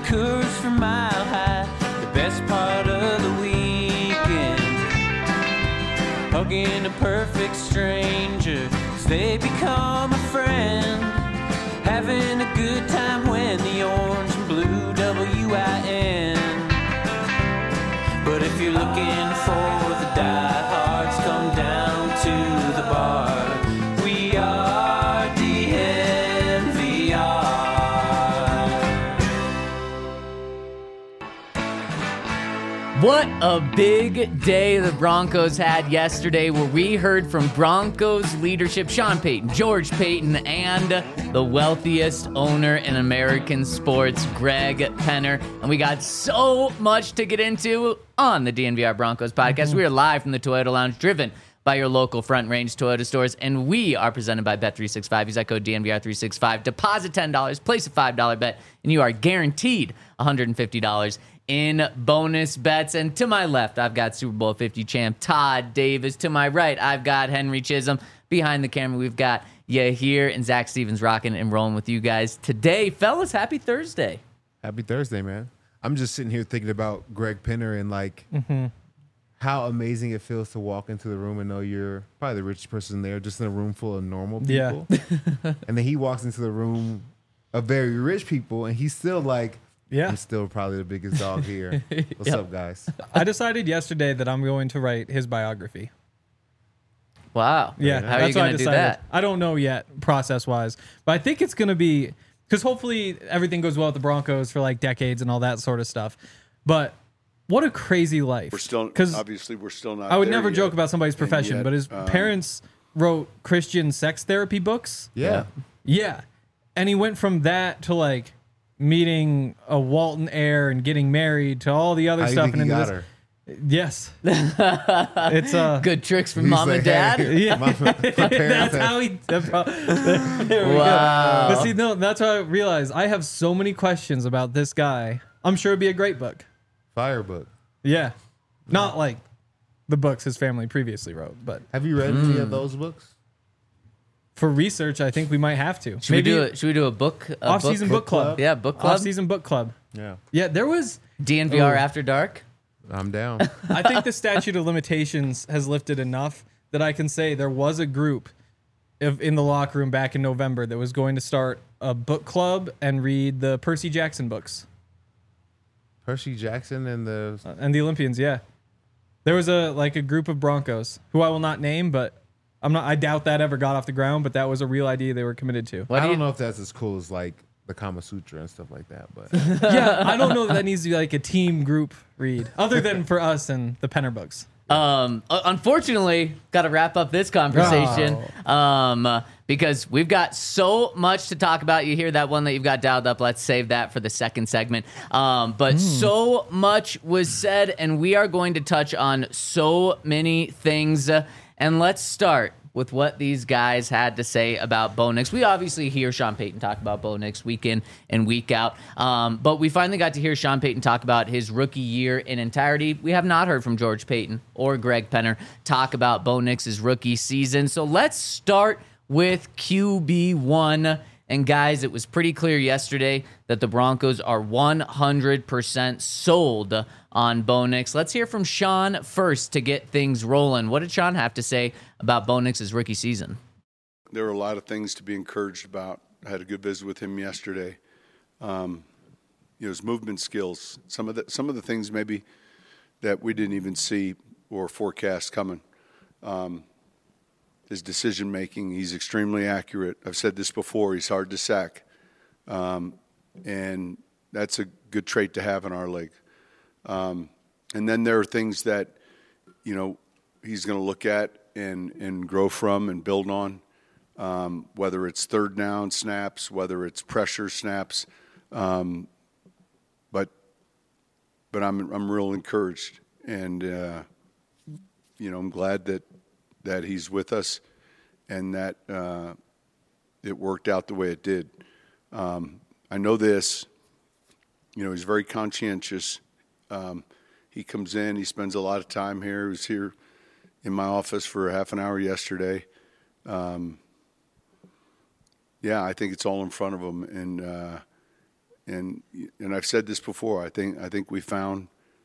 Coors from Mile High, the best part of the weekend. Hugging a perfect stranger as they become a friend. Having a good time when the orange and blue WIN. But if you're looking for the diehards, come down to the bar. We are DNVR. What a big day the Broncos had yesterday, where we heard from Broncos leadership, Sean Payton, George Payton, and the wealthiest owner in American sports, Greg Penner. And we got so much to get into on the DNVR Broncos podcast. We are live from the Toyota Lounge, driven by your local Front Range Toyota stores, and we are presented by Bet365. Use that code DNVR365. Deposit $10, place a $5 bet, and you are guaranteed $150 in bonus bets. And to my left, I've got Super Bowl 50 champ Todd Davis. To my right, I've got Henry Chisholm. Behind the camera, we've got Yahir and Zach Stevens rocking and rolling with you guys today. Fellas, happy Thursday. Happy Thursday, man. I'm just sitting here thinking about Greg Penner and like how amazing it feels to walk into the room and know you're probably the richest person there, just in a room full of normal people. Yeah. And then he walks into the room of very rich people, and he's still like, I'm still probably the biggest dog here. What's up, guys? I decided yesterday that I'm going to write his biography. Wow. Yeah. How are you going to do that? I don't know yet, process-wise. But I think it's going to be... Because hopefully everything goes well with the Broncos for like decades and all that sort of stuff. But what a crazy life. We're still not. I would there never yet. joke about somebody's profession, yet, but his parents wrote Christian sex therapy books. Yeah. Yeah. And he went from that to like meeting a Walton heir and getting married to all the other How stuff. You think and he into got this. her? Yes. It's Good tricks from He's mom like, and dad. hey, Yeah. my parents That's how he. There we Wow. go. But see, no, that's how I realized I have so many questions about this guy. I'm sure it'd be a great book. Fire book. Yeah, not like the books his family previously wrote, but Have you read any of those books? for research, I think we might have to. Should we do a book? Off-season book club. Yeah, book club. Off-season book club. Yeah. Yeah, there was. DNVR Ooh. After Dark. I'm down. I think the statute of limitations has lifted enough that I can say there was a group in the locker room back in November that was going to start a book club and read the Percy Jackson books. Percy Jackson and the... And the Olympians, yeah. There was a group of Broncos who I will not name, but I doubt that ever got off the ground, but that was a real idea they were committed to. What I do don't you- know if that's as cool as like the Kama Sutra and stuff like that, but Yeah, I don't know that needs to be like a team group read, other than for us and the Penner books. Unfortunately, got to wrap up this conversation because we've got so much to talk about. You hear that one that you've got dialed up. Let's save that for the second segment. But so much was said, and we are going to touch on so many things. And let's start with what these guys had to say about Bo Nix. We obviously hear Sean Payton talk about Bo Nix week in and week out, but we finally got to hear Sean Payton talk about his rookie year in entirety. We have not heard from George Payton or Greg Penner talk about Bo Nix's rookie season. So let's start with QB1. And guys, it was pretty clear yesterday that the Broncos are 100% sold on Bo Nix. Let's hear from Sean first to get things rolling. What did Sean have to say about Bo Nix's rookie season? There were a lot of things to be encouraged about. I had a good visit with him yesterday. His movement skills, some of the things maybe that we didn't even see or forecast coming. His decision making, he's extremely accurate. I've said this before, he's hard to sack. And that's a good trait to have in our league. And then there are things that, he's going to look at and grow from and build on, whether it's third down snaps, whether it's pressure snaps. But I'm real encouraged. And, I'm glad that he's with us and that it worked out the way it did. I know this, he's very conscientious. He comes in, he spends a lot of time here. He was here in my office for a half an hour yesterday. I think it's all in front of him. and I've said this before. I think we found,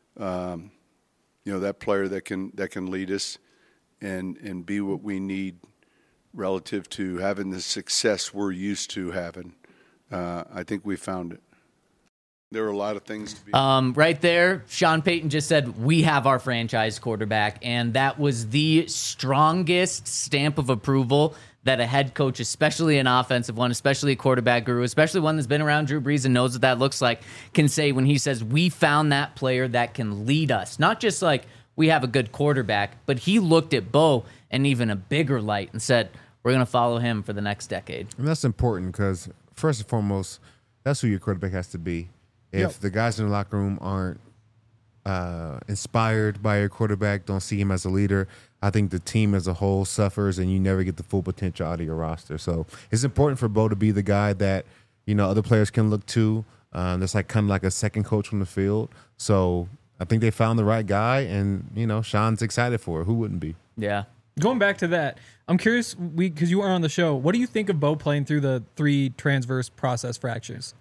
that player that can lead us, and be what we need relative to having the success we're used to having. I think we found it. There were a lot of things to be. Right there, Sean Payton just said, we have our franchise quarterback, and that was the strongest stamp of approval that a head coach, especially an offensive one, especially a quarterback guru, especially one that's been around Drew Brees and knows what that looks like, can say when he says, we found that player that can lead us. Not just like we have a good quarterback, but he looked at Bo in even a bigger light and said, we're going to follow him for the next decade. And that's important because, first and foremost, that's who your quarterback has to be. If the guys in the locker room aren't inspired by your quarterback, don't see him as a leader, I think the team as a whole suffers and you never get the full potential out of your roster. So it's important for Bo to be the guy that, other players can look to. That's like kind of like a second coach on the field. So I think they found the right guy, and, Sean's excited for it. Who wouldn't be? Yeah. Going back to that, I'm curious, because you were on the show, what do you think of Bo playing through the 3 transverse process fractures?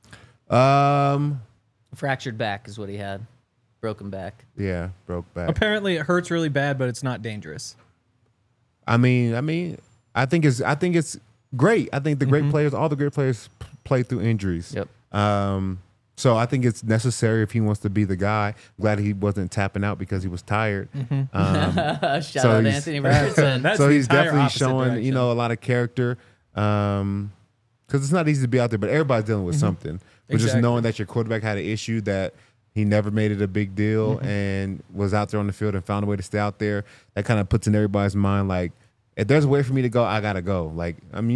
Fractured back is what he had. Broken back. Yeah, broke back. Apparently it hurts really bad, but it's not dangerous. I think it's great. I think the great players, all the great players play through injuries. Yep. So I think it's necessary if he wants to be the guy. Glad he wasn't tapping out because he was tired. Shout out to Anthony Richardson. That's So the he's entire definitely opposite showing, direction. a lot of character. Because it's not easy to be out there, but everybody's dealing with something. But just Exactly. knowing that your quarterback had an issue, that he never made it a big deal and was out there on the field and found a way to stay out there, that kind of puts in everybody's mind, like, if there's a way for me to go, I got to go. Like,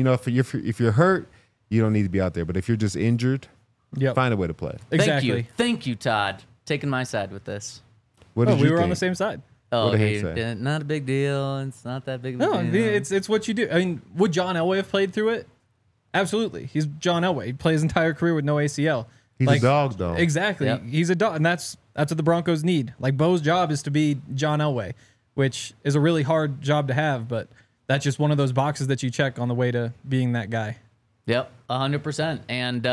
if you're hurt, you don't need to be out there. But if you're just injured, find a way to play. Exactly. Thank you, Todd. Taking my side with this. What did We you were on think? the same side. Oh, What did he say? not a big deal. It's not that big of a No, deal. it's what you do. I mean, would John Elway have played through it? Absolutely. He's John Elway. He played his entire career with no ACL. He's a dog, though. Exactly. Yep. He's a dog, and that's what the Broncos need. Like, Bo's job is to be John Elway, which is a really hard job to have, but that's just one of those boxes that you check on the way to being that guy. Yep, 100%. And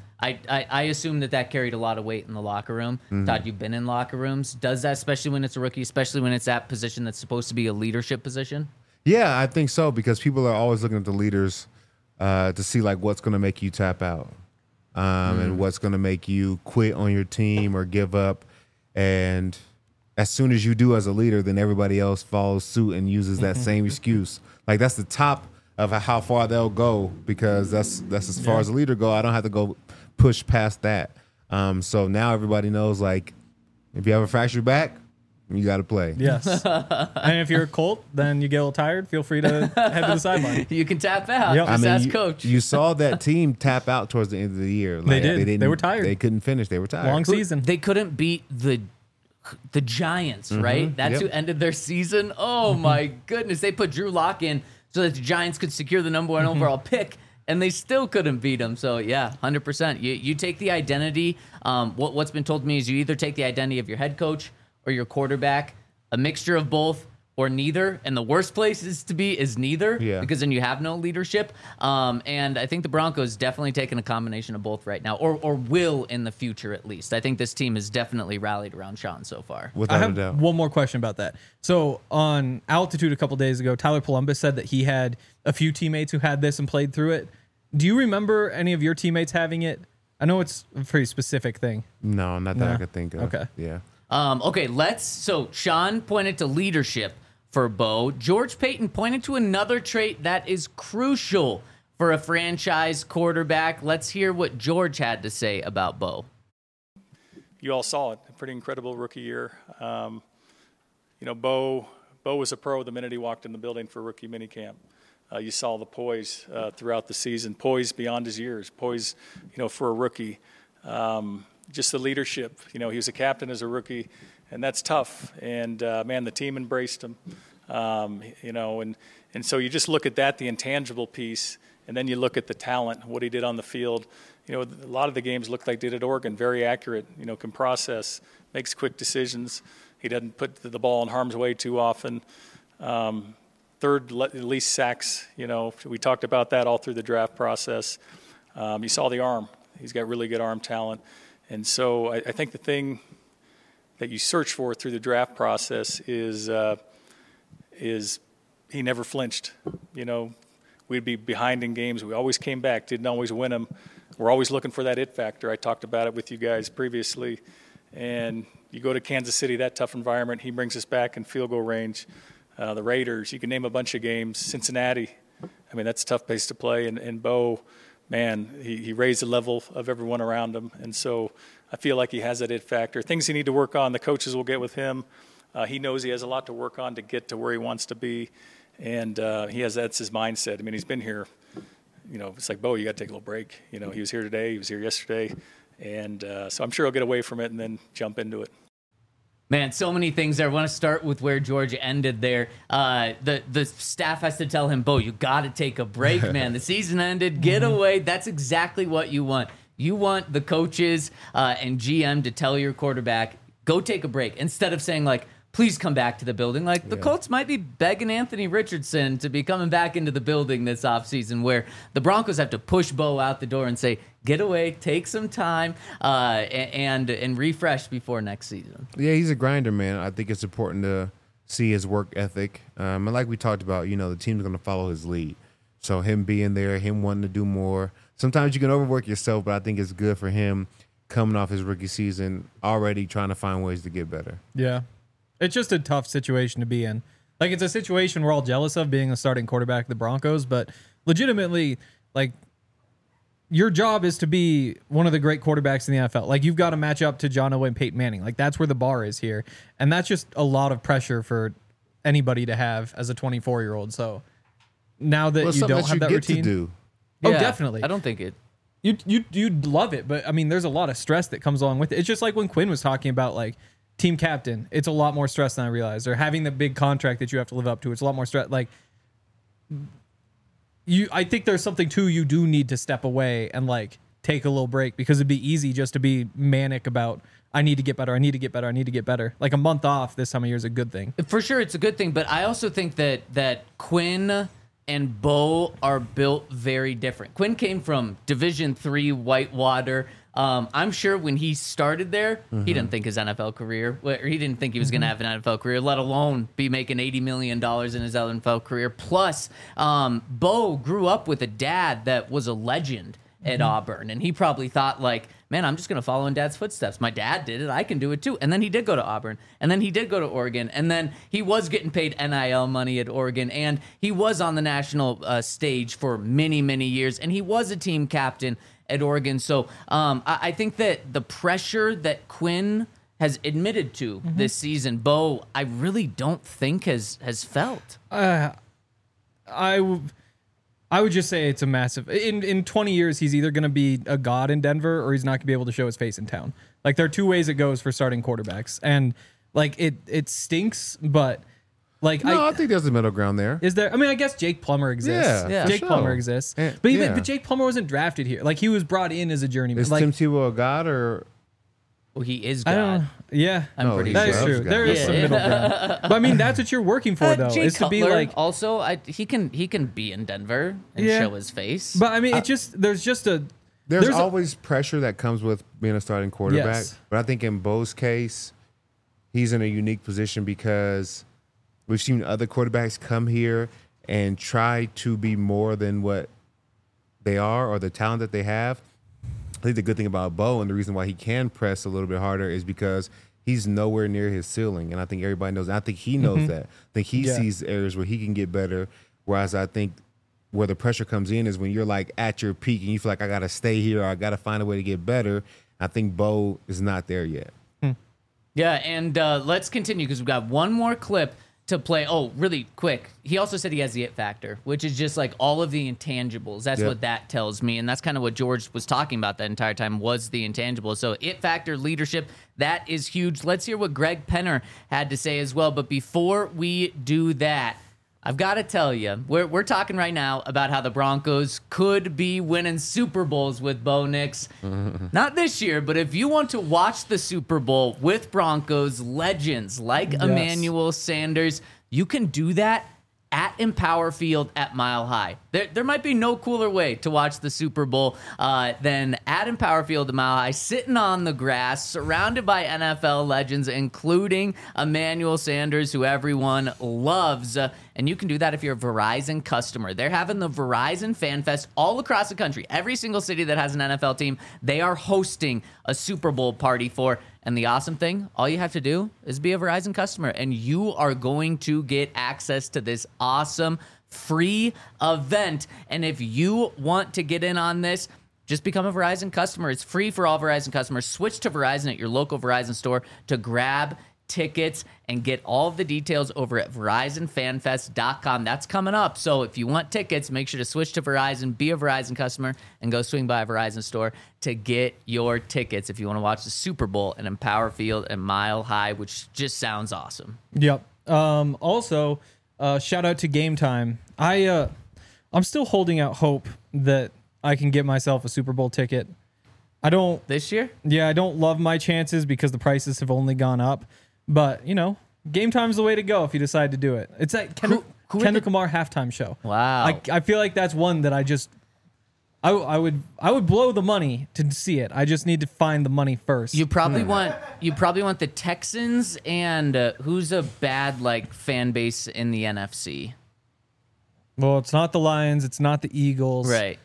I assume that carried a lot of weight in the locker room. Todd, you've been in locker rooms. Does that, especially when it's a rookie, especially when it's that position that's supposed to be a leadership position? Yeah, I think so, because people are always looking at the leaders to see, like, what's going to make you tap out and what's going to make you quit on your team or give up. And as soon as you do as a leader, then everybody else follows suit and uses that same excuse. Like, that's the top of how far they'll go, because that's as far as a leader go. I don't have to go push past that. So now everybody knows, like, if you have a fractured back, you got to play. Yes. And if you're a Colt, then you get a little tired, feel free to head to the sideline. You can tap out. Yep. Just ask you, Coach. You saw that team tap out towards the end of the year. Like, did. didn't- They were tired. They couldn't finish. They were tired. Long season. They couldn't beat the Giants, right? That's Yep. who ended their season. Oh my goodness. They put Drew Lock in so that the Giants could secure the number 1 overall pick, and they still couldn't beat them. So yeah, 100%. You take the identity. What's been told to me is you either take the identity of your head coach or your quarterback, a mixture of both or neither. And the worst place to be is neither, because then you have no leadership. And I think the Broncos definitely taking a combination of both right now, or will in the future at least. I think this team has definitely rallied around Sean so far. I Without a have doubt. one more question about that. So on Altitude a couple days ago, Tyler Palumbis said that he had a few teammates who had this and played through it. Do you remember any of your teammates having it? I know it's a pretty specific thing. No, not that No. I could think of. Okay. Yeah. Okay, so Sean pointed to leadership for Bo. George Payton pointed to another trait that is crucial for a franchise quarterback. Let's hear what George had to say about Bo. You all saw it. A pretty incredible rookie year. Bo was a pro the minute he walked in the building for rookie minicamp. You saw the poise throughout the season, poise beyond his years, poise, for a rookie. Just the leadership. He was a captain as a rookie, and that's tough. And, man, the team embraced him. And so you just look at that, the intangible piece, and then you look at the talent, what he did on the field. A lot of the games looked like they did at Oregon, very accurate, can process, makes quick decisions. He doesn't put the ball in harm's way too often. Third least sacks, we talked about that all through the draft process. You saw the arm. He's got really good arm talent. And so I think the thing that you search for through the draft process is he never flinched. You know, we'd be behind in games. We always came back, didn't always win them. We're always looking for that it factor. I talked about it with you guys previously. And you go to Kansas City, that tough environment, he brings us back in field goal range. The Raiders, you can name a bunch of games. Cincinnati, I mean, that's a tough place to play. And Bo, man, he raised the level of everyone around him. And so I feel like he has that it factor. Things he need to work on, the coaches will get with him. He knows he has a lot to work on to get to where he wants to be. And that's his mindset. I mean, he's been here, you know, it's like, Bo, you got to take a little break. You know, he was here today, he was here yesterday. And so I'm sure he'll get away from it and then jump into it. Man, so many things there. I want to start with where George ended there. The staff has to tell him, Bo, you got to take a break, man. The season ended. Get away. That's exactly what you want. You want the coaches and GM to tell your quarterback, go take a break, instead of saying, like, please come back to the building. Like, the Colts might be begging Anthony Richardson to be coming back into the building this offseason, where the Broncos have to push Bo out the door and say, get away, take some time, and refresh before next season. Yeah, he's a grinder, man. I think it's important to see his work ethic. And like we talked about, you know, the team's going to follow his lead. So him being there, him wanting to do more. Sometimes you can overwork yourself, but I think it's good for him coming off his rookie season, already trying to find ways to get better. Yeah. It's just a tough situation to be in. Like, it's a situation we're all jealous of, being a starting quarterback of the Broncos, but legitimately, like, your job is to be one of the great quarterbacks in the NFL. Like, you've got to match up to John Elway and Peyton Manning. Like, that's where the bar is here. And that's just a lot of pressure for anybody to have as a 24-year-old. So now that you don't have that routine. To do. Oh, Yeah, definitely. I don't think it. You'd love it, but I mean, there's a lot of stress that comes along with it. It's just like when Quinn was talking about, like, team captain. It's a lot more stress than I realized. Or having the big contract that you have to live up to. It's a lot more stress. Like, I think there's something too, you do need to step away and, like, take a little break, because it'd be easy just to be manic about, I need to get better, I need to get better, I need to get better. Like, a month off this time of year is a good thing. For sure, it's a good thing, but I also think that Quinn and Bo are built very different. Quinn came from Division III Whitewater. I'm sure when he started there, he didn't think his NFL career, or he didn't think he was going to have an NFL career, let alone be making $80 million in his NFL career. Plus, Bo grew up with a dad that was a legend at Auburn, and he probably thought, like, man, I'm just going to follow in Dad's footsteps. My dad did it. I can do it too. And then he did go to Auburn, and then he did go to Oregon, and then he was getting paid NIL money at Oregon, and he was on the national stage for many, many years, and he was a team captain at Oregon. So I think that the pressure that Quinn has admitted to this season, Bo, I really don't think has felt. I would just say it's a massive. In 20 years, he's either going to be a god in Denver, or he's not going to be able to show his face in town. Like, there are two ways it goes for starting quarterbacks, and, like, it stinks, but, like, No, I think there's a middle ground there. is there? I mean, I guess Jake Plummer exists. Yeah, Jake for Plummer sure. exists, And- but Jake Plummer wasn't drafted here. Like, he was brought in as a journeyman. Is Like, Tim Tebow a god, or Well, he is I God. don't. Yeah, I'm pretty that sure. is true. God. There is Yeah. some middle ground, but I mean, that's what you're working for, though, Jay is to be Cutler like. also, he can be in Denver and Yeah. show his face. But I mean, it just there's there's a- always pressure that comes with being a starting quarterback. Yes. But I think in Bo's case, he's in a unique position because we've seen other quarterbacks come here and try to be more than what they are or the talent that they have. I think the good thing about Bo, and the reason why he can press a little bit harder, is because he's nowhere near his ceiling. And I think everybody knows. And I think he knows that. I think he sees areas where he can get better. Whereas I think where the pressure comes in is when you're, like, at your peak and you feel like, I got to stay here, or I got to find a way to get better. I think Bo is not there yet. Yeah, and let's continue, because we've got one more clip to play. Oh, really quick. He also said he has the it factor, which is just like all of the intangibles. That's what that tells me. And that's kind of what George was talking about that entire time, was the intangibles. So it factor, leadership, that is huge. Let's hear what Greg Penner had to say as well. But before we do that, I've got to tell you, we're talking right now about how the Broncos could be winning Super Bowls with Bo Nix. Not this year, but if you want to watch the Super Bowl with Broncos legends like Emmanuel Sanders, you can do that at Empower Field at Mile High. There might be no cooler way to watch the Super Bowl than at Empower Field at Mile High, sitting on the grass, surrounded by NFL legends, including Emmanuel Sanders, who everyone loves. And you can do that if you're a Verizon customer. They're having the Verizon Fan Fest all across the country. Every single city that has an NFL team, they are hosting a Super Bowl party for. And the awesome thing, all you have to do is be a Verizon customer, and you are going to get access to this awesome free event. And if you want to get in on this, just become a Verizon customer. It's free for all Verizon customers. Switch to Verizon at your local Verizon store to grab tickets and get all of the details over at VerizonFanFest.com. That's coming up. So if you want tickets, make sure to switch to Verizon, be a Verizon customer, and go swing by a Verizon store to get your tickets if you want to watch the Super Bowl at Empower Field and Mile High, which just sounds awesome. Yep. Also, shout out to Game Time. I'm still holding out hope that I can get myself a Super Bowl ticket. I don't This year? Yeah, I don't love my chances because the prices have only gone up. But, Game Time's the way to go if you decide to do it. It's like Kendrick Lamar halftime show. Wow. I feel like that's one that I would blow the money to see it. I just need to find the money first. You probably want the Texans and who's a bad fan base in the NFC? Well, it's not the Lions, it's not the Eagles. Right.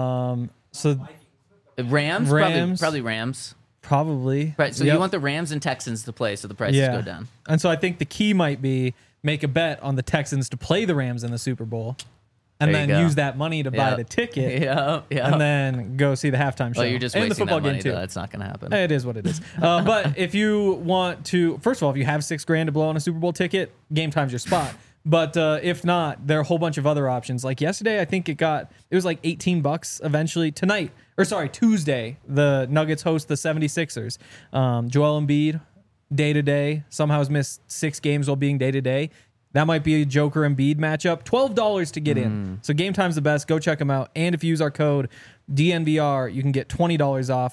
So Rams? Probably Rams. Probably. Right. So Yep. you want the Rams and Texans to play so the prices go down. And so I think the key might be make a bet on the Texans to play the Rams in the Super Bowl. And There you then go. use that money to buy the ticket. Yeah. And then go see the halftime show. Well, you're just and the wasting football that money, game too. though. That's not going to happen. It is what it is. But if you want to, first of all, if you have $6,000 to blow on a Super Bowl ticket, Game Time's your spot. But if not, there are a whole bunch of other options. Like yesterday, I think it was like $18 eventually. Tuesday, the Nuggets host the 76ers. Joel Embiid, day-to-day, somehow has missed 6 games while being day-to-day. That might be a Joker Embiid matchup. $12 to get in. So Game Time's the best. Go check them out. And if you use our code DNVR, you can get $20 off.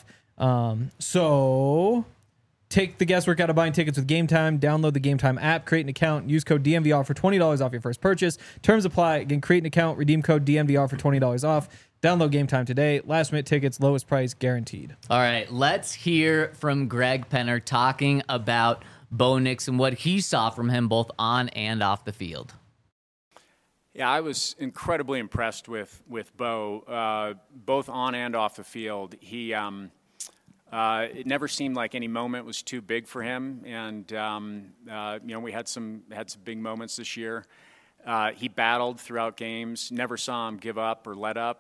So take the guesswork out of buying tickets with Game Time. Download the Game Time app, create an account, use code DNVR for $20 off your first purchase. Terms apply. Again, create an account, redeem code DNVR for $20 off. Download Game Time today. Last minute tickets, lowest price guaranteed. All right, let's hear from Greg Penner talking about Bo Nix and what he saw from him both on and off the field. Yeah, I was incredibly impressed with Bo, both on and off the field. He it never seemed like any moment was too big for him, and we had some big moments this year. He battled throughout games. Never saw him give up or let up,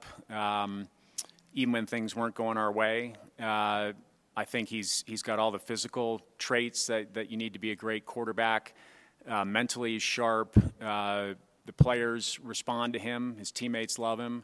even when things weren't going our way. I think he's got all the physical traits that you need to be a great quarterback. Mentally, he's sharp. The players respond to him. His teammates love him.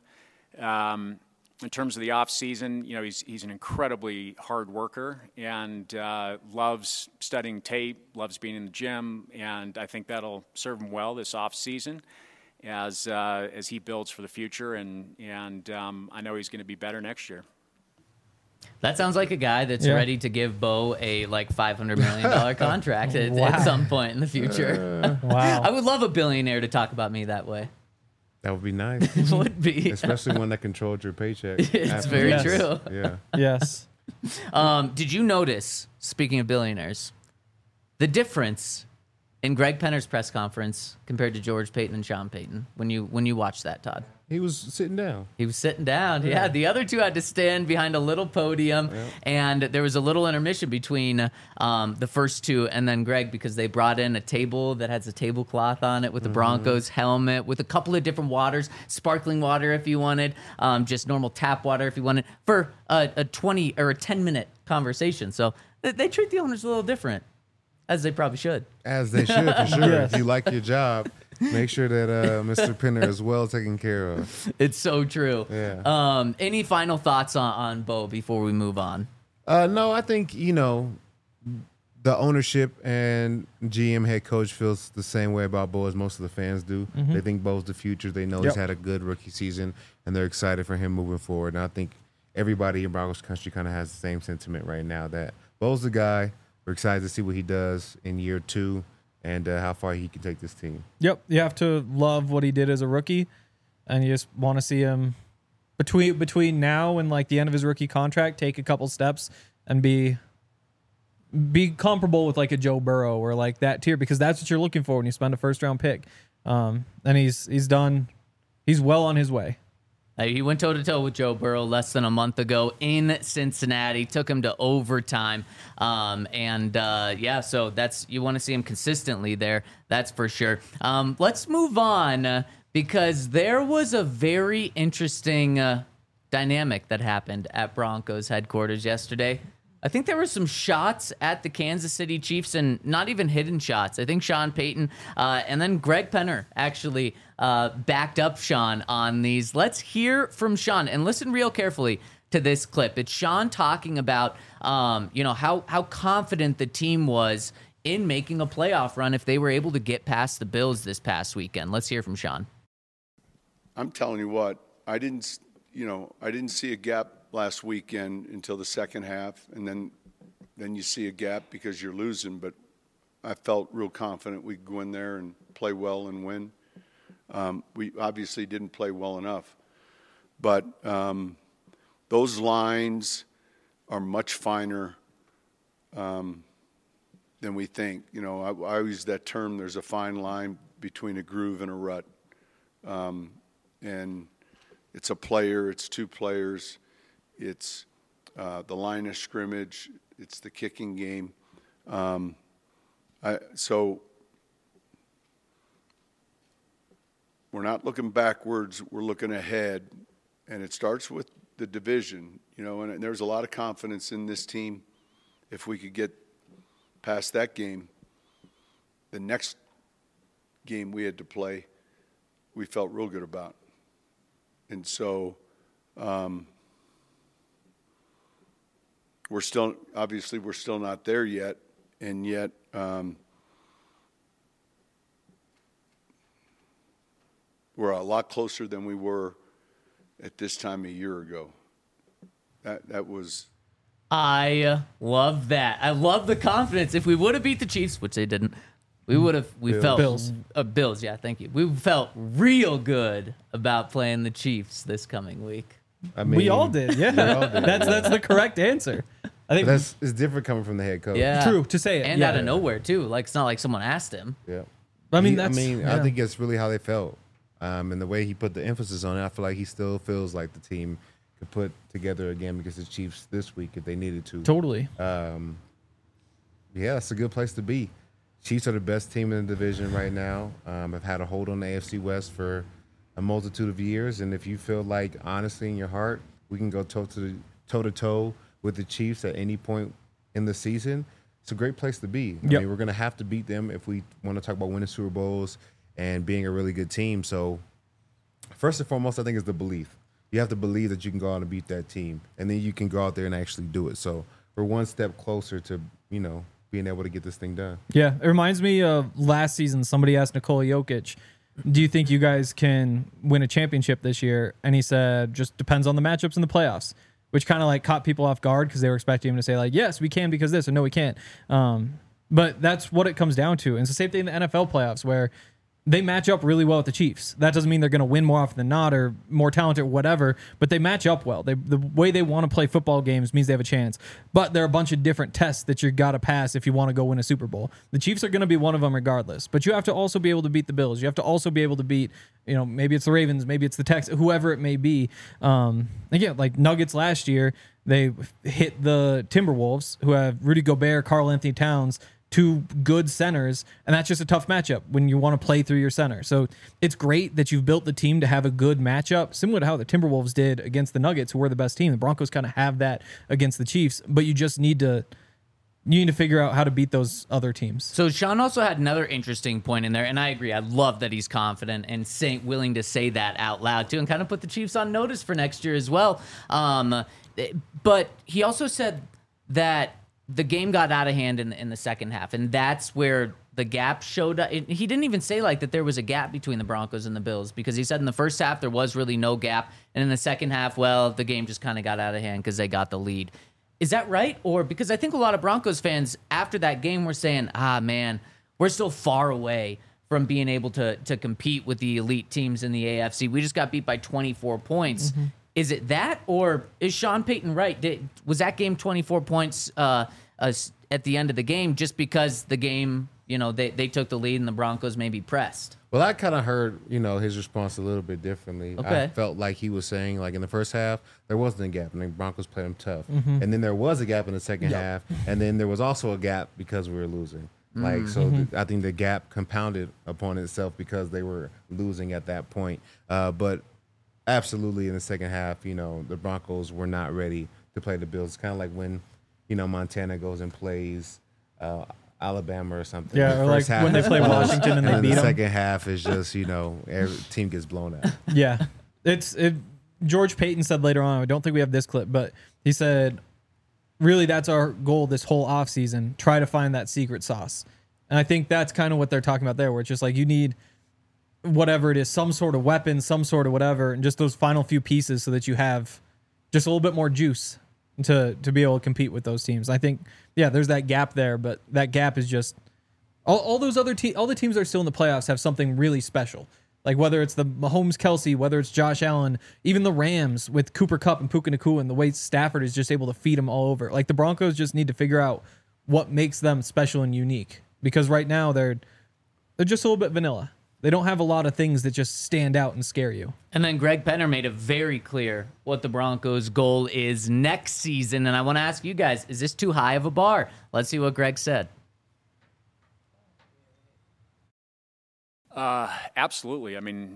In terms of the off season, he's an incredibly hard worker and loves studying tape, loves being in the gym, and I think that'll serve him well this off season as he builds for the future. And I know he's going to be better next year. That sounds like a guy that's ready to give Bo a $500 million contract at some point in the future. Wow. I would love a billionaire to talk about me that way. That would be nice. It would be. Especially one that controlled your paycheck. It's very Yes. true. Yeah. Yes. Did you notice, speaking of billionaires, the difference in Greg Penner's press conference compared to George Payton and Sean Payton when you watched that, Todd? He was sitting down. He was sitting down. Yeah, the other two had to stand behind a little podium, and there was a little intermission between the first two and then Greg because they brought in a table that has a tablecloth on it with the Broncos helmet, with a couple of different waters, sparkling water if you wanted, just normal tap water if you wanted, for a 20 or a 10-minute conversation. So they treat the owners a little different, as they probably should. As they should, for sure. If you like your job, make sure that Mr. Penner is well taken care of. It's so true. Yeah. Any final thoughts on Bo before we move on? No, I think, the ownership and GM head coach feels the same way about Bo as most of the fans do. They think Bo's the future. They know he's had a good rookie season, and they're excited for him moving forward. And I think everybody in Broncos country kind of has the same sentiment right now that Bo's the guy. We're excited to see what he does in year 2. and how far he can take this team. Yep, you have to love what he did as a rookie, and you just want to see him between now and like the end of his rookie contract take a couple steps and be comparable with like a Joe Burrow or like that tier, because that's what you're looking for when you spend a first-round pick. And he's well on his way. He went toe-to-toe with Joe Burrow less than a month ago in Cincinnati, took him to overtime. So you want to see him consistently there, that's for sure. Let's move on because there was a very interesting dynamic that happened at Broncos headquarters yesterday. I think there were some shots at the Kansas City Chiefs, and not even hidden shots. I think Sean Payton and then Greg Penner actually backed up Sean on these. Let's hear from Sean and listen real carefully to this clip. It's Sean talking about how confident the team was in making a playoff run if they were able to get past the Bills this past weekend. Let's hear from Sean. I'm telling you what, I didn't see a gap last weekend until the second half, and then you see a gap because you're losing. But I felt real confident we'd go in there and play well and win. We obviously didn't play well enough, but those lines are much finer than we think. I use that term. There's a fine line between a groove and a rut, and it's a player. It's two players. It's the line of scrimmage. It's the kicking game. So we're not looking backwards. We're looking ahead, and it starts with the division. And there's a lot of confidence in this team. If we could get past that game, the next game we had to play, we felt real good about. And so we're still not there yet, and yet we're a lot closer than we were at this time a year ago. That was. I love that. I love the confidence. If we would have beat the Chiefs, which they didn't, we felt Bills. Bills. Yeah, thank you. We felt real good about playing the Chiefs this coming week. I mean, We all did, yeah. That's the correct answer. I think it's different coming from the head coach. Yeah, True, to say it, and yeah. out of nowhere too. Like it's not like someone asked him. Yeah. I mean, I yeah. think it's really how they felt. And the way he put the emphasis on it, I feel like he still feels like the team could put together a game against the Chiefs this week if they needed to. Totally. Yeah, it's a good place to be. Chiefs are the best team in the division right now. Have had a hold on the AFC West for a multitude of years. And if you feel like, honestly, in your heart, we can go toe-to-toe with the Chiefs at any point in the season, it's a great place to be. I mean, we're going to have to beat them if we want to talk about winning Super Bowls and being a really good team. So first and foremost, I think is the belief. You have to believe that you can go out and beat that team, and then you can go out there and actually do it. So we're one step closer to, being able to get this thing done. Yeah, it reminds me of last season. Somebody asked Nikola Jokic, do you think you guys can win a championship this year? And he said, just depends on the matchups in the playoffs, which kind of like caught people off guard because they were expecting him to say like, yes, we can because this, or no, we can't. But that's what it comes down to. And it's the same thing in the NFL playoffs where they match up really well with the Chiefs. That doesn't mean they're going to win more often than not or more talented or whatever, but they match up well. The way they want to play football games means they have a chance. But there are a bunch of different tests that you got to pass if you want to go win a Super Bowl. The Chiefs are going to be one of them regardless, but you have to also be able to beat the Bills. You have to also be able to beat, maybe it's the Ravens, maybe it's the Texans, whoever it may be. Again, like Nuggets last year, they hit the Timberwolves, who have Rudy Gobert, Karl Anthony Towns, two good centers, and that's just a tough matchup when you want to play through your center. So it's great that you've built the team to have a good matchup, similar to how the Timberwolves did against the Nuggets, who were the best team. The Broncos kind of have that against the Chiefs, but you just need to figure out how to beat those other teams. So Sean also had another interesting point in there, and I agree. I love that he's confident and willing to say that out loud too, and kind of put the Chiefs on notice for next year as well. But he also said that the game got out of hand in the second half, and that's where the gap showed up. He didn't even say like that there was a gap between the Broncos and the Bills, because he said in the first half there was really no gap, and in the second half, well, the game just kind of got out of hand because they got the lead. Is that right? Or because I think a lot of Broncos fans after that game were saying, man, we're still far away from being able to compete with the elite teams in the AFC. We just got beat by 24 points. Is it that, or is Sean Payton right? Was that game 24 points at the end of the game just because the game, they took the lead and the Broncos maybe pressed? Well, I kind of heard, his response a little bit differently. Okay. I felt like he was saying, like, in the first half, there wasn't a gap, and the Broncos played them tough. And then there was a gap in the second half, and then there was also a gap because we were losing. I think the gap compounded upon itself because they were losing at that point. But absolutely in the second half, the Broncos were not ready to play the Bills. It's kind of like when, Montana goes and plays Alabama or something. Yeah, or like when they play Washington and they beat them. The second half is just, every team gets blown out. Yeah. George Payton said later on, I don't think we have this clip, but he said, really, that's our goal this whole offseason, try to find that secret sauce. And I think that's kind of what they're talking about there, where it's just like you need whatever it is, some sort of weapon, some sort of whatever, and just those final few pieces so that you have just a little bit more juice to be able to compete with those teams. I think, there's that gap there, but that gap is just all those other all the teams that are still in the playoffs have something really special. Like whether it's the Mahomes, Kelsey, whether it's Josh Allen, even the Rams with Cooper Kupp and Puka Nacua, and the way Stafford is just able to feed them all over. Like the Broncos just need to figure out what makes them special and unique, because right now they're just a little bit vanilla. They don't have a lot of things that just stand out and scare you. And then Greg Penner made it very clear what the Broncos' goal is next season. And I want to ask you guys, is this too high of a bar? Let's see what Greg said. Absolutely. I mean,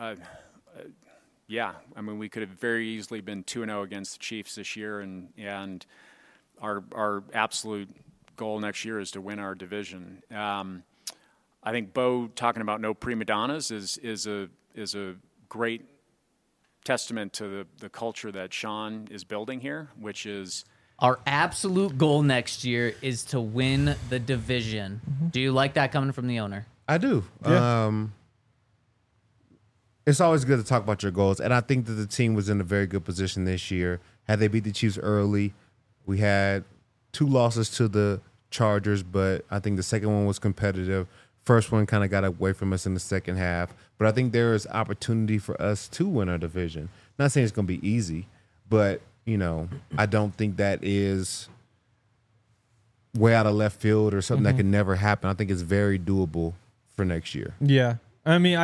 we could have very easily been 2-0 against the Chiefs this year, and our absolute goal next year is to win our division. I think Bo talking about no prima donnas is a great testament to the culture that Sean is building here, which is our absolute goal next year is to win the division. Do you like that coming from the owner? I do. Yeah. It's always good to talk about your goals, and I think that the team was in a very good position this year. Had they beat the Chiefs early, we had 2 losses to the Chargers, but I think the second one was competitive. First one kind of got away from us in the second half, but I think there is opportunity for us to win our division. Not saying it's going to be easy, but, I don't think that is way out of left field or something that can never happen. I think it's very doable for next year. Yeah. I mean,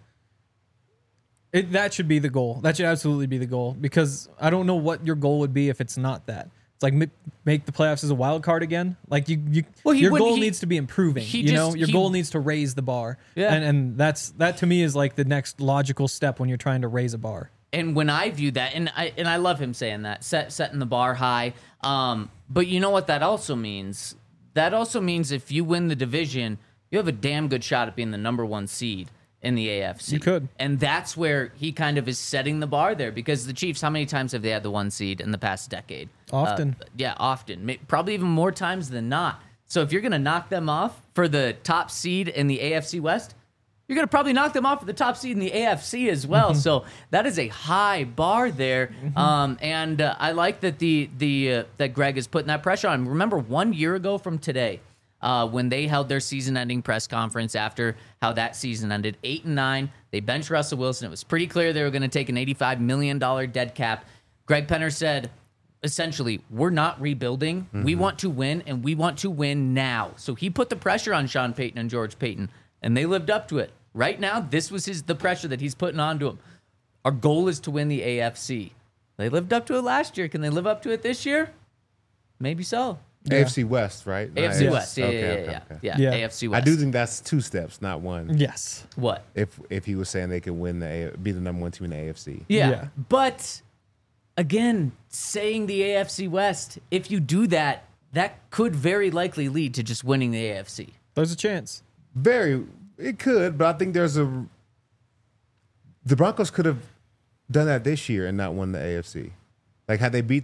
that should be the goal. That should absolutely be the goal, because I don't know what your goal would be if it's not that. It's like make the playoffs as a wild card again. Like your goal needs to be improving. Your goal needs to raise the bar. Yeah. And that to me is like the next logical step when you're trying to raise a bar. And when I view that, and I love him saying that, setting the bar high. But you know what that also means? That also means if you win the division, you have a damn good shot at being the number 1 seed in the AFC. You could. And that's where he kind of is setting the bar there, because the Chiefs, how many times have they had the 1 seed in the past decade? Often. Often. Probably even more times than not. So if you're going to knock them off for the top seed in the AFC West, you're going to probably knock them off for the top seed in the AFC as well. So that is a high bar there. And I like that that Greg is putting that pressure on. Remember 1 year ago from today, when they held their season-ending press conference after how that season ended, 8-9, they benched Russell Wilson. It was pretty clear they were going to take an $85 million dead cap. Greg Penner said, essentially, we're not rebuilding. We want to win, and we want to win now. So he put the pressure on Sean Payton and George Payton, and they lived up to it. Right now, this was the pressure that he's putting onto them. Our goal is to win the AFC. They lived up to it last year. Can they live up to it this year? Maybe so. Yeah. AFC West, right? AFC West, yeah, AFC West. I do think that's 2 steps, not 1. Yes. What? If he was saying they could be the number 1 team in the AFC. Yeah. But again, saying the AFC West, if you do that, that could very likely lead to just winning the AFC. There's a chance. It could, but I think the Broncos could have done that this year and not won the AFC. Like had they beat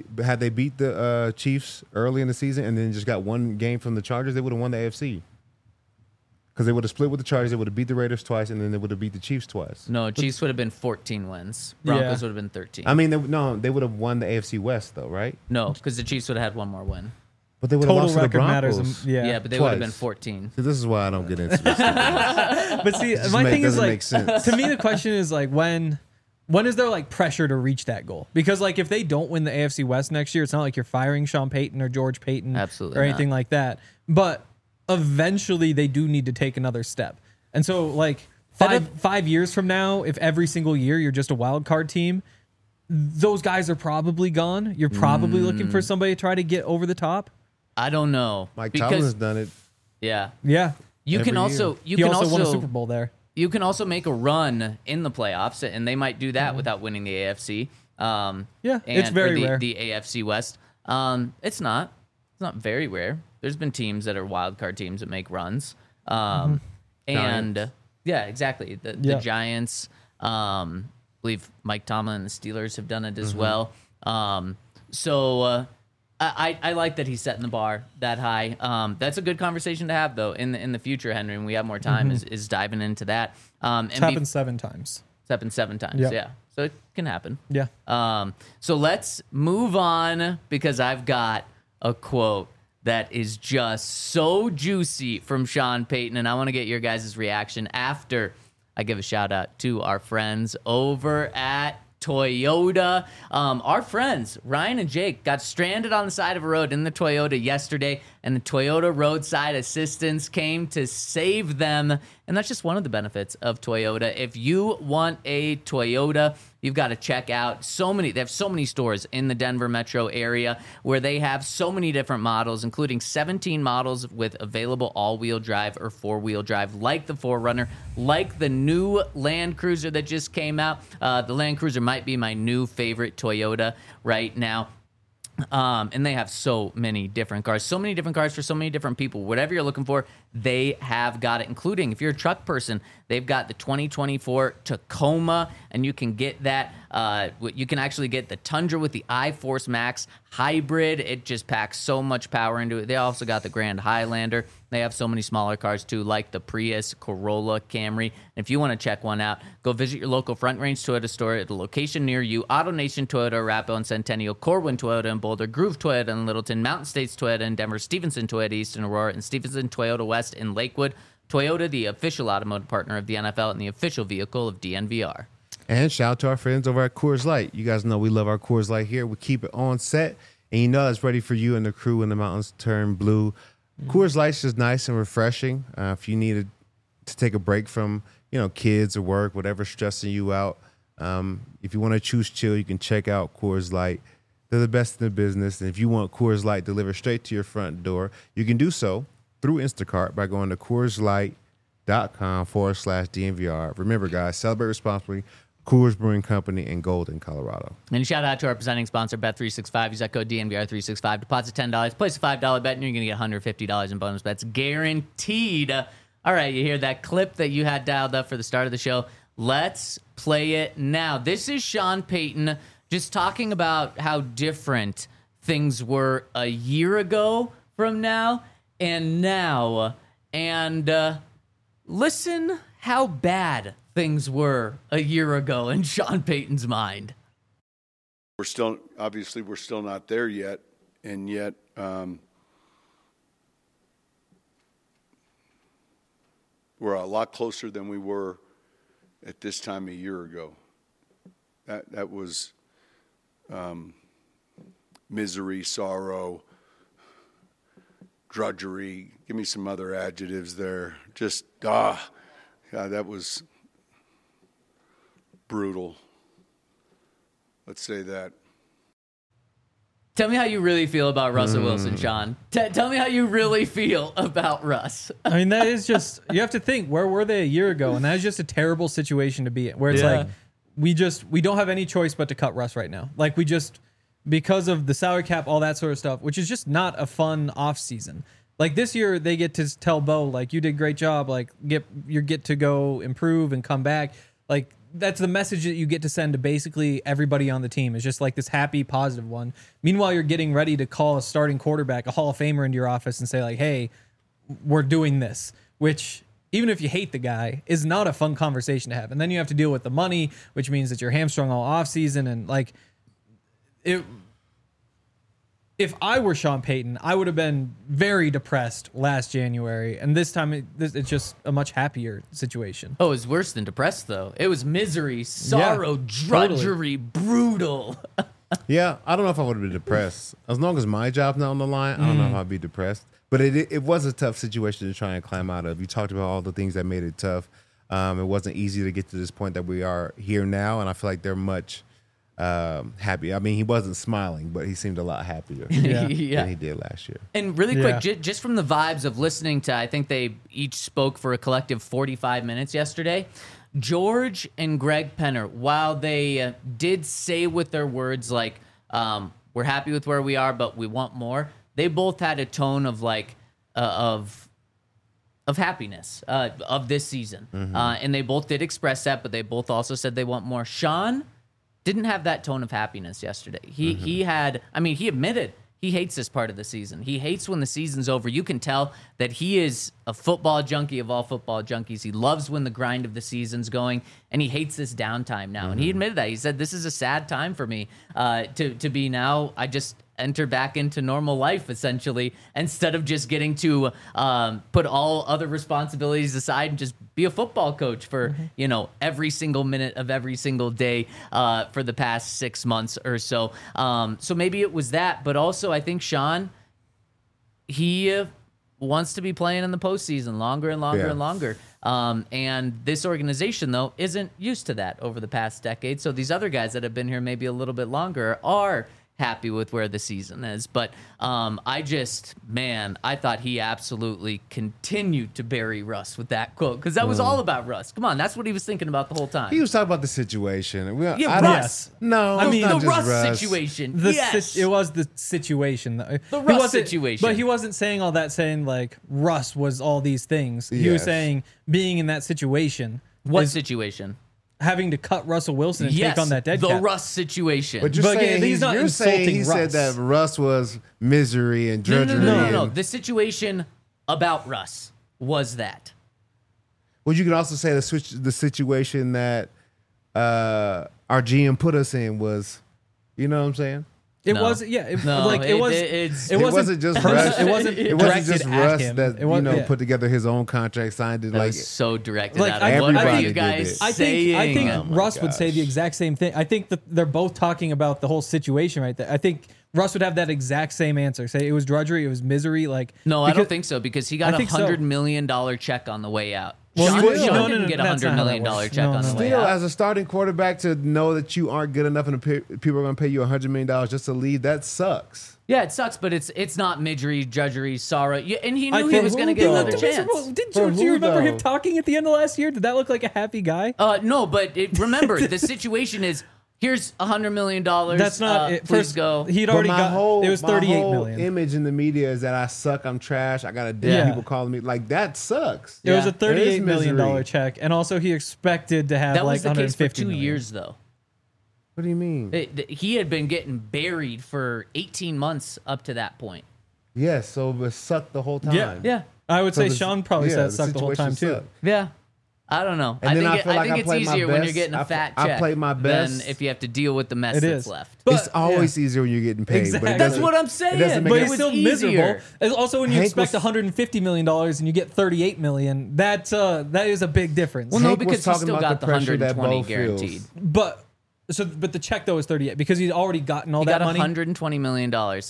the Chiefs early in the season and then just got 1 game from the Chargers, they would have won the AFC. Because they would have split with the Chargers, they would have beat the Raiders twice, and then they would have beat the Chiefs twice. No, Chiefs would have been 14 wins. Broncos would have been 13. I mean, they would have won the AFC West though, right? No, because the Chiefs would have had 1 more win. But they would have total lost to the record matters. Broncos. Yeah, but they would have been Twice. 14. See, this is why I don't get into this. But see, my thing is doesn't like, make sense. to me, the question is like, when is there like pressure to reach that goal? Because like if they don't win the AFC West next year, it's not like you're firing Sean Payton or George Payton Absolutely or anything like that. But eventually they do need to take another step. And so like 5 years from now, if every single year you're just a wild card team, those guys are probably gone. You're probably looking for somebody to try to get over the top. I don't know. Mike because, Tomlin's done it. Yeah. Yeah. You Every can also He also won a Super Bowl there. You can also make a run in the playoffs, and they might do that without winning the AFC. Yeah, it's very rare. The AFC West. It's not very rare. There's been teams that are wild card teams that make runs. And yeah, exactly. The Giants. I believe Mike Tomlin and the Steelers have done it as well. I like that he's setting the bar that high. That's a good conversation to have, though, in the future, Henry, when we have more time, is diving into that. It's happened 7 times. It's happened 7 times, yeah. So it can happen. Yeah. So let's move on, because I've got a quote that is just so juicy from Sean Payton, and I want to get your guys' reaction after I give a shout out to our friends over at Toyota. Our friends Ryan and Jake got stranded on the side of a road in the Toyota yesterday, and the Toyota roadside assistance came to save them. And that's just one of the benefits of Toyota. If you want a Toyota, you've got to check out they have so many stores in the Denver metro area where they have so many different models, including 17 models with available all-wheel drive or four-wheel drive, like the 4Runner, like the new Land Cruiser that just came out. The Land Cruiser might be my new favorite Toyota right now. And they have so many different cars for so many different people. Whatever you're looking for, they have got it, including if you're a truck person, they've got the 2024 Tacoma, and you can get that. You can actually get the Tundra with the iForce Max hybrid. It just packs so much power into it. They also got the Grand Highlander. They have so many smaller cars too, like the Prius, Corolla, Camry. And if you want to check one out, go visit your local Front Range Toyota store at a location near you. AutoNation Toyota, Arapahoe and Centennial, Corwin Toyota in Boulder, Groove Toyota in Littleton, Mountain States Toyota in Denver, Stevenson Toyota East in Aurora, and Stevenson Toyota West in Lakewood. Toyota, the official automotive partner of the NFL and the official vehicle of DNVR. And shout out to our friends over at Coors Light. You guys know we love our Coors Light here. We keep it on set, and you know that's ready for you and the crew when the mountains turn blue. Coors Light's just nice and refreshing. If you needed to take a break from, kids or work, whatever's stressing you out, if you want to choose chill, you can check out Coors Light. They're the best in the business. And if you want Coors Light delivered straight to your front door, you can do so through Instacart by going to CoorsLight.com/DNVR. Remember, guys, celebrate responsibly. Coors Brewing Company in Golden, Colorado. And shout out to our presenting sponsor, Bet365. Use that code DNVR365. Deposit $10. Place a $5 bet, and you're going to get $150 in bonus bets. Guaranteed. All right, you hear that clip that you had dialed up for the start of the show? Let's play it now. This is Sean Payton just talking about how different things were a year ago from now and now. And listen how bad things were a year ago in Sean Payton's mind. We're still not there yet, and yet we're a lot closer than we were at this time a year ago. That was misery, sorrow, drudgery. Give me some other adjectives there. Just God, that was brutal. Let's say that. Tell me how you really feel about Russell Wilson, Sean. Tell me how you really feel about Russ. I mean, that is just, you have to think, where were they a year ago? And that is just a terrible situation to be in, where it's like, we don't have any choice but to cut Russ right now. Like, because of the salary cap, all that sort of stuff, which is just not a fun off season. Like this year, they get to tell Bo, like, you did a great job. Like, you get to go improve and come back. Like, that's the message that you get to send to basically everybody on the team. It's just like this happy, positive one. Meanwhile, you're getting ready to call a starting quarterback, a Hall of Famer, into your office and say, like, hey, we're doing this, which, even if you hate the guy, is not a fun conversation to have. And then you have to deal with the money, which means that you're hamstrung all offseason. And, like, if I were Sean Payton, I would have been very depressed last January, and this time it's just a much happier situation. Oh, it was worse than depressed, though. It was misery, sorrow, drudgery, brutal. Yeah, I don't know if I would have been depressed. As long as my job's not on the line, I don't know if I'd be depressed. But it was a tough situation to try and climb out of. You talked about all the things that made it tough. It wasn't easy to get to this point that we are here now, and I feel like they're much happy. I mean, he wasn't smiling, but he seemed a lot happier than he did last year. And really quick, just from the vibes of listening to, I think they each spoke for a collective 45 minutes yesterday. George and Greg Penner, while they did say with their words like, we're happy with where we are, but we want more, they both had a tone of like, of happiness of this season. And they both did express that, but they both also said they want more. Sean didn't have that tone of happiness yesterday. He had, I mean, he admitted he hates this part of the season. He hates when the season's over. You can tell that he is a football junkie of all football junkies. He loves when the grind of the season's going, and he hates this downtime now. And he admitted that. He said, this is a sad time for me to be now. I just enter back into normal life, essentially, instead of just getting to put all other responsibilities aside and just be a football coach for, every single minute of every single day for the past 6 months or so. So maybe it was that, but also I think Sean, he wants to be playing in the postseason longer and longer and longer. And this organization, though, isn't used to that over the past decade. So these other guys that have been here maybe a little bit longer are happy with where the season is. But I thought he absolutely continued to bury Russ with that quote, because that was all about Russ. Come on, that's what he was thinking about the whole time. He was talking about the situation. Russ. No, I mean, the Russ situation. It was the situation. The Russ situation. But he wasn't saying all that, saying like Russ was all these things. He was saying being in that situation. What situation? Having to cut Russell Wilson and take on that dead cap. The Russ situation. But you're saying he's not insulting Russ. He said that Russ was misery and drudgery. No. The situation about Russ was that. Well, you can also say the situation that our GM put us in was, you know what I'm saying? It wasn't. Yeah. It wasn't just Russ. It wasn't just Russ that put together his own contract, signed it. That was so directed at him. What are you did guys it. saying? I think Russ would say the exact same thing. I think that they're both talking about the whole situation right there. I think Russ would have that exact same answer. Say it was drudgery, it was misery. No, I don't think so, because he got $100 million check on the way out. Well, Sean didn't get $100 million check on the way out. Still, as a starting quarterback, to know that you aren't good enough and people are going to pay you $100 million just to leave, that sucks. Yeah, it sucks, but it's not misery, drudgery, sorrow. And he knew he was going to get another chance. Do you remember him talking at the end of last year? Did that look like a happy guy? No, but remember, the situation is, here's $100 million. That's not it. Please go. He'd already it was $38 million. Image in the media is that I suck, I'm trash, I got people calling me. Like, that sucks. It was a $38 million check, and also he expected to have that like was the case for 2 years, though. What do you mean? He had been getting buried for 18 months up to that point. Yes, so it sucked the whole time. Yeah. I would say Sean probably said it sucked the whole time, too. Yeah. I don't know. And I think it's easier when you're getting a fat check. I played my best. Than if you have to deal with the mess that's left. It's always easier when you're getting paid. Exactly. But that's what I'm saying. But it's still miserable. And also, when you Hank expect $150 million and you get $38 million, that is a big difference. Well, no, because he still got the 120 guaranteed. But the check though is 38 because he'd already gotten all that money. He got $120 million.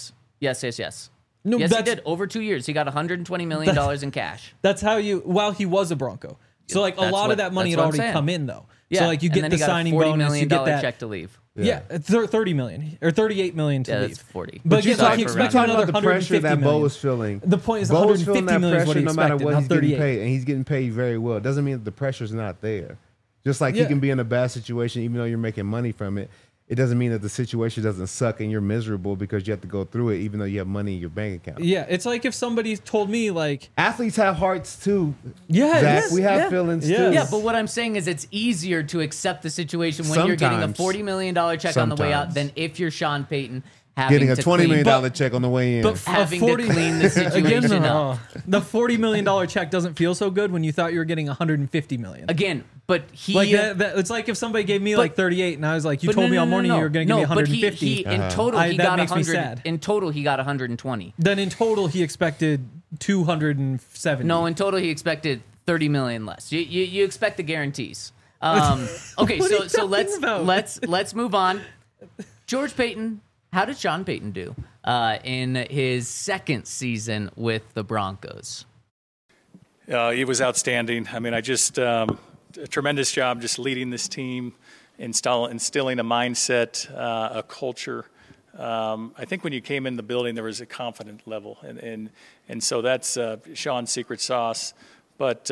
Yes. No, yes, he did. Over 2 years, he got $120 million in cash. That's how while he was a Bronco. So like a lot of that money had already come in though. Yeah. So like you get the signing bonus, you get that check to leave. Yeah, $30 million or $38 million to leave. That's 40. But you're talking about the pressure that Bo was feeling. The point is, Bo was feeling that pressure no matter what he's getting paid, and he's getting paid very well. It doesn't mean that the pressure's not there. Just like he can be in a bad situation, even though you're making money from it. It doesn't mean that the situation doesn't suck and you're miserable because you have to go through it, even though you have money in your bank account. Yeah, it's like if somebody told me, like, athletes have hearts too. Yeah, Zach, we have feelings too. Yeah, but what I'm saying is it's easier to accept the situation when you're getting a $40 million check on the way out than if you're Sean Payton Getting a to $20 million clean- check on the way in. But having to clean the situation again, up. the $40 million check doesn't feel so good when you thought you were getting $150 million. Again, but he Like that, it's like if somebody gave me like 38 and I was like, you but told no, me no, all no, morning no. you were going to give me No, but 150. he in total he that got makes me 100. sad. In total he got 120. Then in total he expected 270. No, in total he expected 30 million less. You expect the guarantees. Okay, What are you so talking about? let's move on. George Payton, how did Sean Payton do in his second season with the Broncos? He was outstanding. I mean, a tremendous job just leading this team, instilling a mindset, a culture. I think when you came in the building, there was a confident level, and so that's Sean's secret sauce. But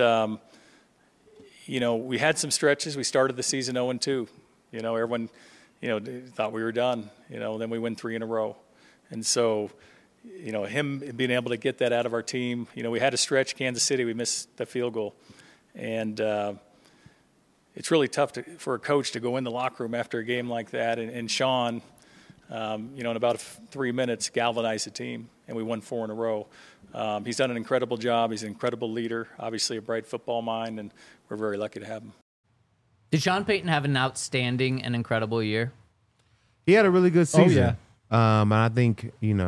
we had some stretches. We started the season 0-2. Everyone, thought we were done. Then we win 3 in a row, and so. Him being able to get that out of our team. We had a stretch, Kansas City, we missed the field goal. And it's really tough for a coach to go in the locker room after a game like that. And Sean, in about 3 minutes, galvanized the team, and we won 4 in a row. He's done an incredible job. He's an incredible leader, obviously a bright football mind, and we're very lucky to have him. Did Sean Payton have an outstanding and incredible year? He had a really good season. yeah. And I think,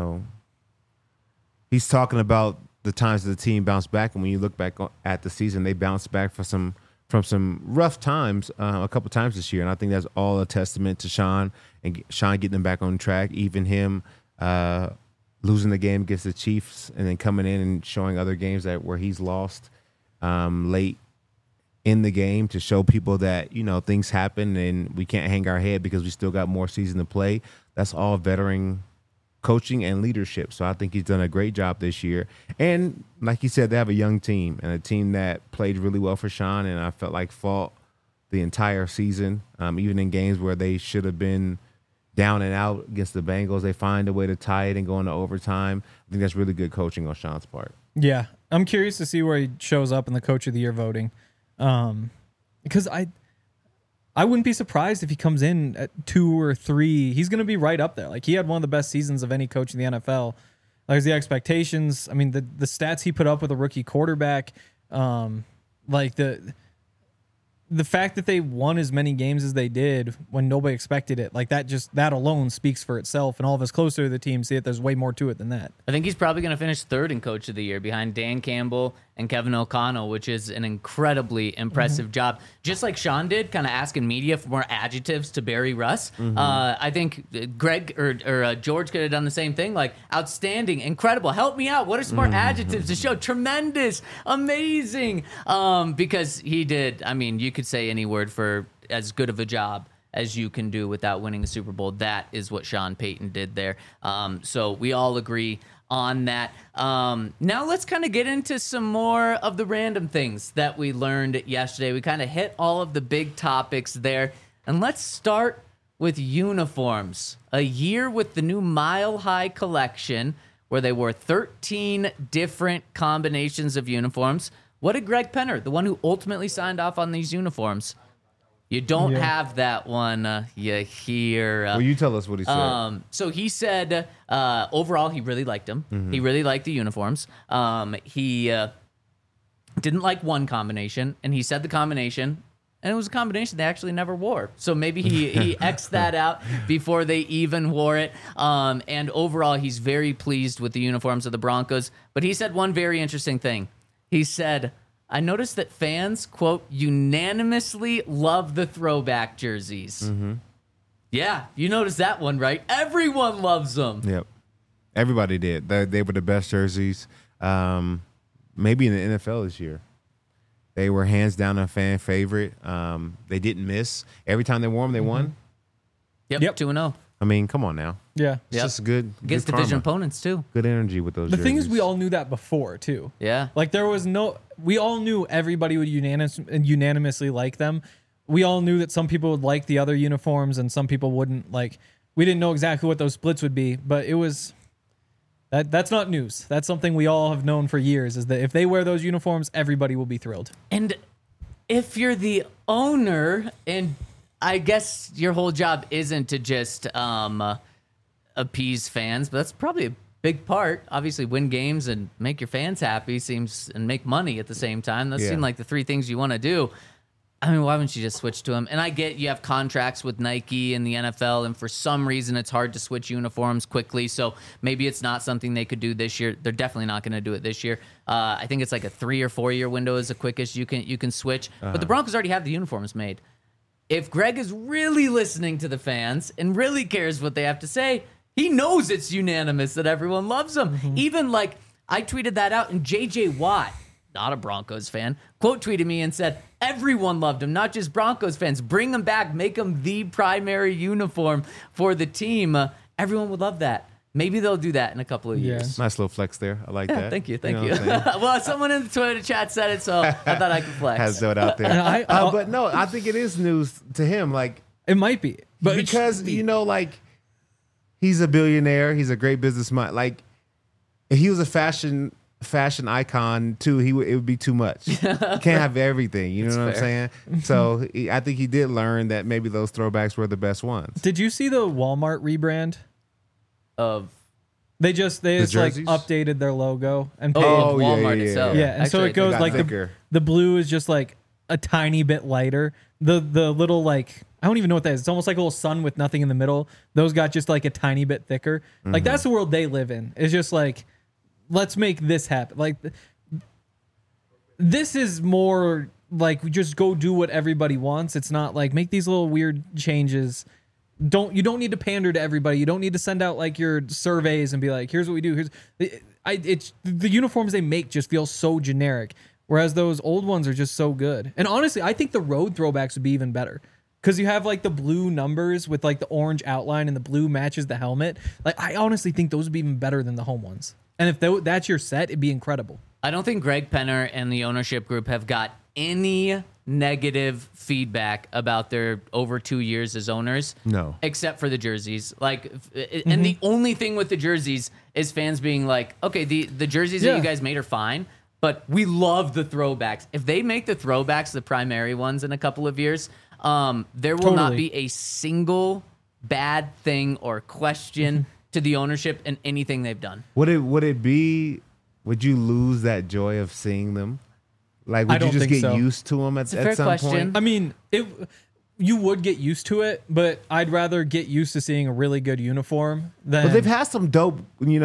he's talking about the times that the team bounced back, and when you look back at the season, they bounced back from some rough times a couple times this year, and I think that's all a testament to Sean and Sean getting them back on track. Even him losing the game against the Chiefs, and then coming in and showing other games where he's lost late in the game to show people that things happen and we can't hang our head because we still got more season to play. That's all veteran coaching and leadership. So I think he's done a great job this year. And like you said, they have a young team and a team that played really well for Sean, and I felt like fought the entire season, even in games where they should have been down and out against the Bengals. They find a way to tie it and go into overtime. I think that's really good coaching on Sean's part. Yeah. I'm curious to see where he shows up in the Coach of the Year voting. Because I wouldn't be surprised if he comes in at 2 or 3. He's going to be right up there. Like, he had one of the best seasons of any coach in the NFL. Like, the expectations, I mean, the stats he put up with a rookie quarterback, like the fact that they won as many games as they did when nobody expected it, like that alone speaks for itself. And all of us closer to the team see it. There's way more to it than that. I think he's probably going to finish 3rd in Coach of the Year behind Dan Campbell and Kevin O'Connell, which is an incredibly impressive job. Just like Sean did, kind of asking media for more adjectives to Barry Russ. I think Greg or George could have done the same thing. Like, outstanding, incredible, help me out. What are some more adjectives to show? Tremendous, amazing. Because he did, I mean, you could say any word for as good of a job as you can do without winning a Super Bowl. That is what Sean Payton did there. So we all agree on that. Now let's kind of get into some more of the random things that we learned yesterday. We kind of hit all of the big topics there. And let's start with uniforms. A year with the new Mile High collection where they wore 13 different combinations of uniforms. What did Greg Penner, the one who ultimately signed off on these uniforms? You don't have that one. You hear. Well, you tell us what he said. So he said, overall, he really liked them. He really liked the uniforms. He didn't like one combination, and he said the combination, and it was a combination they actually never wore. So maybe he X'd that out before they even wore it. And overall, he's very pleased with the uniforms of the Broncos. But he said one very interesting thing. He said, I noticed that fans, quote, unanimously love the throwback jerseys. Yeah, you noticed that one, right? Everyone loves them. Yep. Everybody did. They were the best jerseys, maybe in the NFL this year. They were hands down a fan favorite. They didn't miss. Every time they wore them, they won. Yep. 2-0. I mean, come on now. Yeah. It's just good. Against good division karma. opponents, too. Good energy with those The jerseys. thing is, we all knew that before, too. Yeah. Like, we all knew everybody would unanimously like them. We all knew that some people would like the other uniforms and some people wouldn't. Like, we didn't know exactly what those splits would be, but it was... That's not news. That's something we all have known for years, is that if they wear those uniforms, everybody will be thrilled. And if you're the owner, and I guess your whole job isn't to just appease fans, but that's probably a big part. Obviously, win games and make your fans happy and make money at the same time. Those seem like the three things you want to do. I mean, why wouldn't you just switch to them? And I get you have contracts with Nike and the NFL, and for some reason it's hard to switch uniforms quickly. So maybe it's not something they could do this year. They're definitely not going to do it this year. I think it's like a 3 or 4 year window is the quickest you can switch. But the Broncos already have the uniforms made. If Greg is really listening to the fans and really cares what they have to say, he knows it's unanimous that everyone loves him. Even like I tweeted that out, and JJ Watt, not a Broncos fan, quote tweeted me and said, everyone loved him, not just Broncos fans. Bring him back. Make him the primary uniform for the team. Everyone would love that. Maybe they'll do that in a couple of years. Nice little flex there. I like that. Thank you. know what I'm saying? Well, someone in the Twitter chat said it, so I thought I could flex. Has that out there. But no, I think it is news to him. Like, It might be, but because, like, he's a billionaire. He's a great businessman. Like, if he was a fashion icon too, it would be too much. You can't have everything. You know what I'm saying? So I think he did learn that maybe those throwbacks were the best ones. Did you see the Walmart rebrand? They just like updated their logo and paid. Walmart itself. Yeah, and Actually, so it goes like the blue is just like a tiny bit lighter. The little like I don't even know what that is. It's almost like a little sun with nothing in the middle. Those got just like a tiny bit thicker. Like that's the world they live in. It's just like, let's make this happen. Like this is more like we just go do what everybody wants. It's not like make these little weird changes. You don't need to pander to everybody. You don't need to send out like your surveys and be like, here's what we do. It's the uniforms they make just feel so generic, whereas those old ones are just so good. And honestly, I think the road throwbacks would be even better because you have like the blue numbers with like the orange outline and the blue matches the helmet. Like I honestly think those would be even better than the home ones. And if that's your set, it'd be incredible. I don't think Greg Penner and the ownership group have got any negative feedback about their over 2 years as owners. No. Except for the jerseys. Like, and the only thing with the jerseys is fans being like, okay, the jerseys that you guys made are fine, but we love the throwbacks. If they make the throwbacks the primary ones in a couple of years, there will not be a single bad thing or question to the ownership and anything they've done. Would you lose that joy of seeing them? Like, would you just get used to them at some point? I mean, you would get used to it, but I'd rather get used to seeing a really good uniform than. But they've had some dope,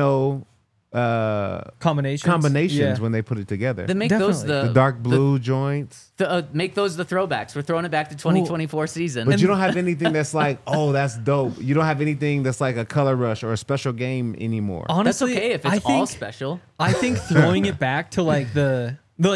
combinations when they put it together. Then make those the dark blue joints. Make those the throwbacks. We're throwing it back to 2024 season. But you don't have anything that's like, oh, that's dope. You don't have anything that's like a color rush or a special game anymore. Honestly, that's okay if it's all special. I think throwing it back to like the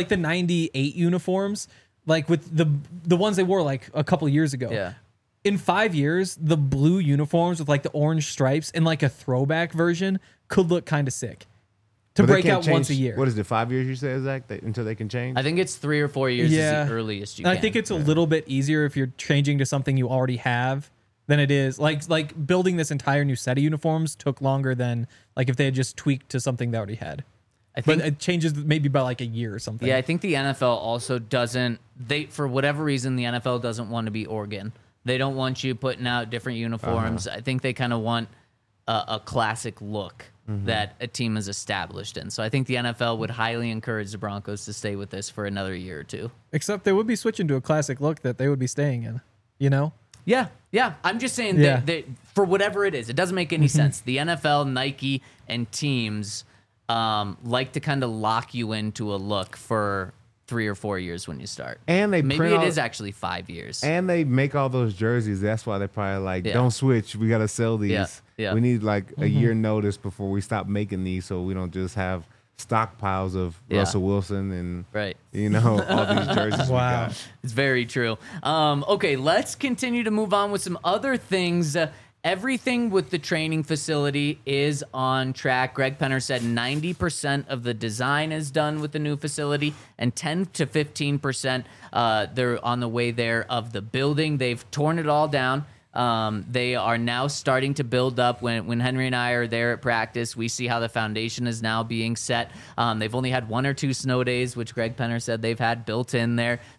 98 uniforms, like with the ones they wore like a couple years ago. Yeah. In 5 years, the blue uniforms with like the orange stripes and like a throwback version could look kind of sick. To break out once a year. What is it, 5 years you say, Zach, until they can change? I think it's 3 or 4 years is the earliest you can. I think it's a little bit easier if you're changing to something you already have than it is. Like building this entire new set of uniforms took longer than like if they had just tweaked to something they already had. But it changes maybe by like a year or something. Yeah, I think the NFL also doesn't, for whatever reason, the NFL doesn't want to be Oregon. They don't want you putting out different uniforms. I think they kind of want a classic look that a team is established in. So I think the NFL would highly encourage the Broncos to stay with this for another year or two. Except they would be switching to a classic look that they would be staying in, you know? Yeah. I'm just saying that for whatever it is, it doesn't make any sense. The NFL, Nike, and teams like to kind of lock you into a look for 3 or 4 years when you start. And maybe it is actually 5 years. And they make all those jerseys. That's why they're probably like, don't switch. We got to sell these. Yeah. We need like a year notice before we stop making these, so we don't just have stockpiles of Russell Wilson and all these jerseys. Wow, it's very true. Okay, let's continue to move on with some other things. Everything with the training facility is on track. Greg Penner said 90% of the design is done with the new facility, and 10 to 15% they're on the way there of the building. They've torn it all down. They are now starting to build up. When Henry and I are there at practice, we see how the foundation is now being set. They've only had 1 or 2 snow days, which Greg Penner said they've had built in there.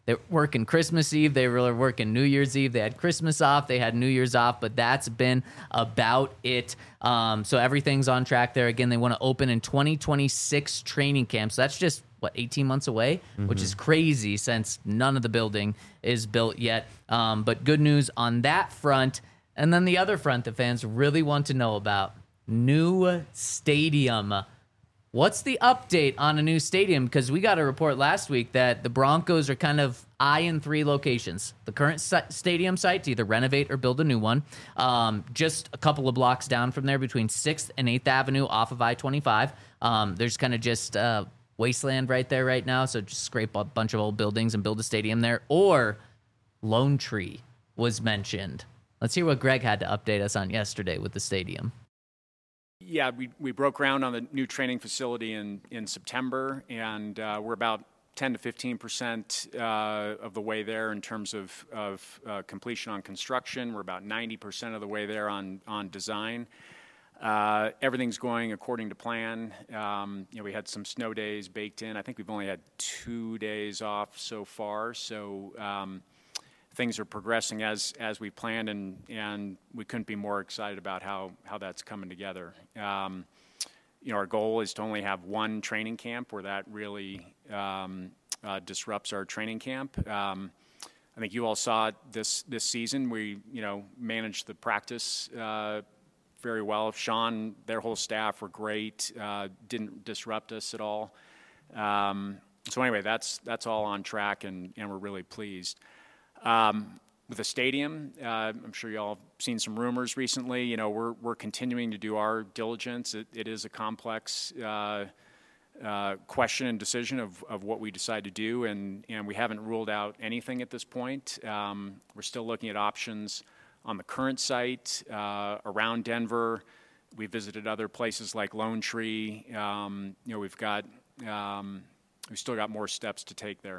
They're working Christmas Eve. They were working New Year's Eve. They had Christmas off. They had New Year's off, but that's been about it. So everything's on track there. Again, they want to open in 2026 training camp. So that's just, 18 months away, which is crazy since none of the building is built yet. But good news on that front. And then the other front that fans really want to know about, new stadium. What's the update on a new stadium? Because we got a report last week that the Broncos are kind of eyeing 3 locations. The current stadium site to either renovate or build a new one. Just a couple of blocks down from there between 6th and 8th Avenue off of I-25. There's kind of just wasteland right there right now, so just scrape a bunch of old buildings and build a stadium there. Or Lone Tree was mentioned. Let's hear what Greg had to update us on yesterday with the stadium. Yeah, we broke ground on the new training facility in September, and we're about 10 to 15% of the way there in terms of completion on construction. We're about 90% of the way there on design. Everything's going according to plan. We had some snow days baked in. I think we've only had 2 days off so far, so things are progressing as we planned, and we couldn't be more excited about how that's coming together. Our goal is to only have one training camp where that really disrupts our training camp. I think you all saw it this season. We managed the practice very well. Sean, their whole staff were great. Didn't disrupt us at all. So anyway, that's all on track, and we're really pleased. With the stadium, I'm sure you all have seen some rumors recently. We're continuing to do our diligence. It is a complex question and decision of what we decide to do, and we haven't ruled out anything at this point. We're still looking at options on the current site around Denver. We visited other places like Lone Tree. We've still got more steps to take there.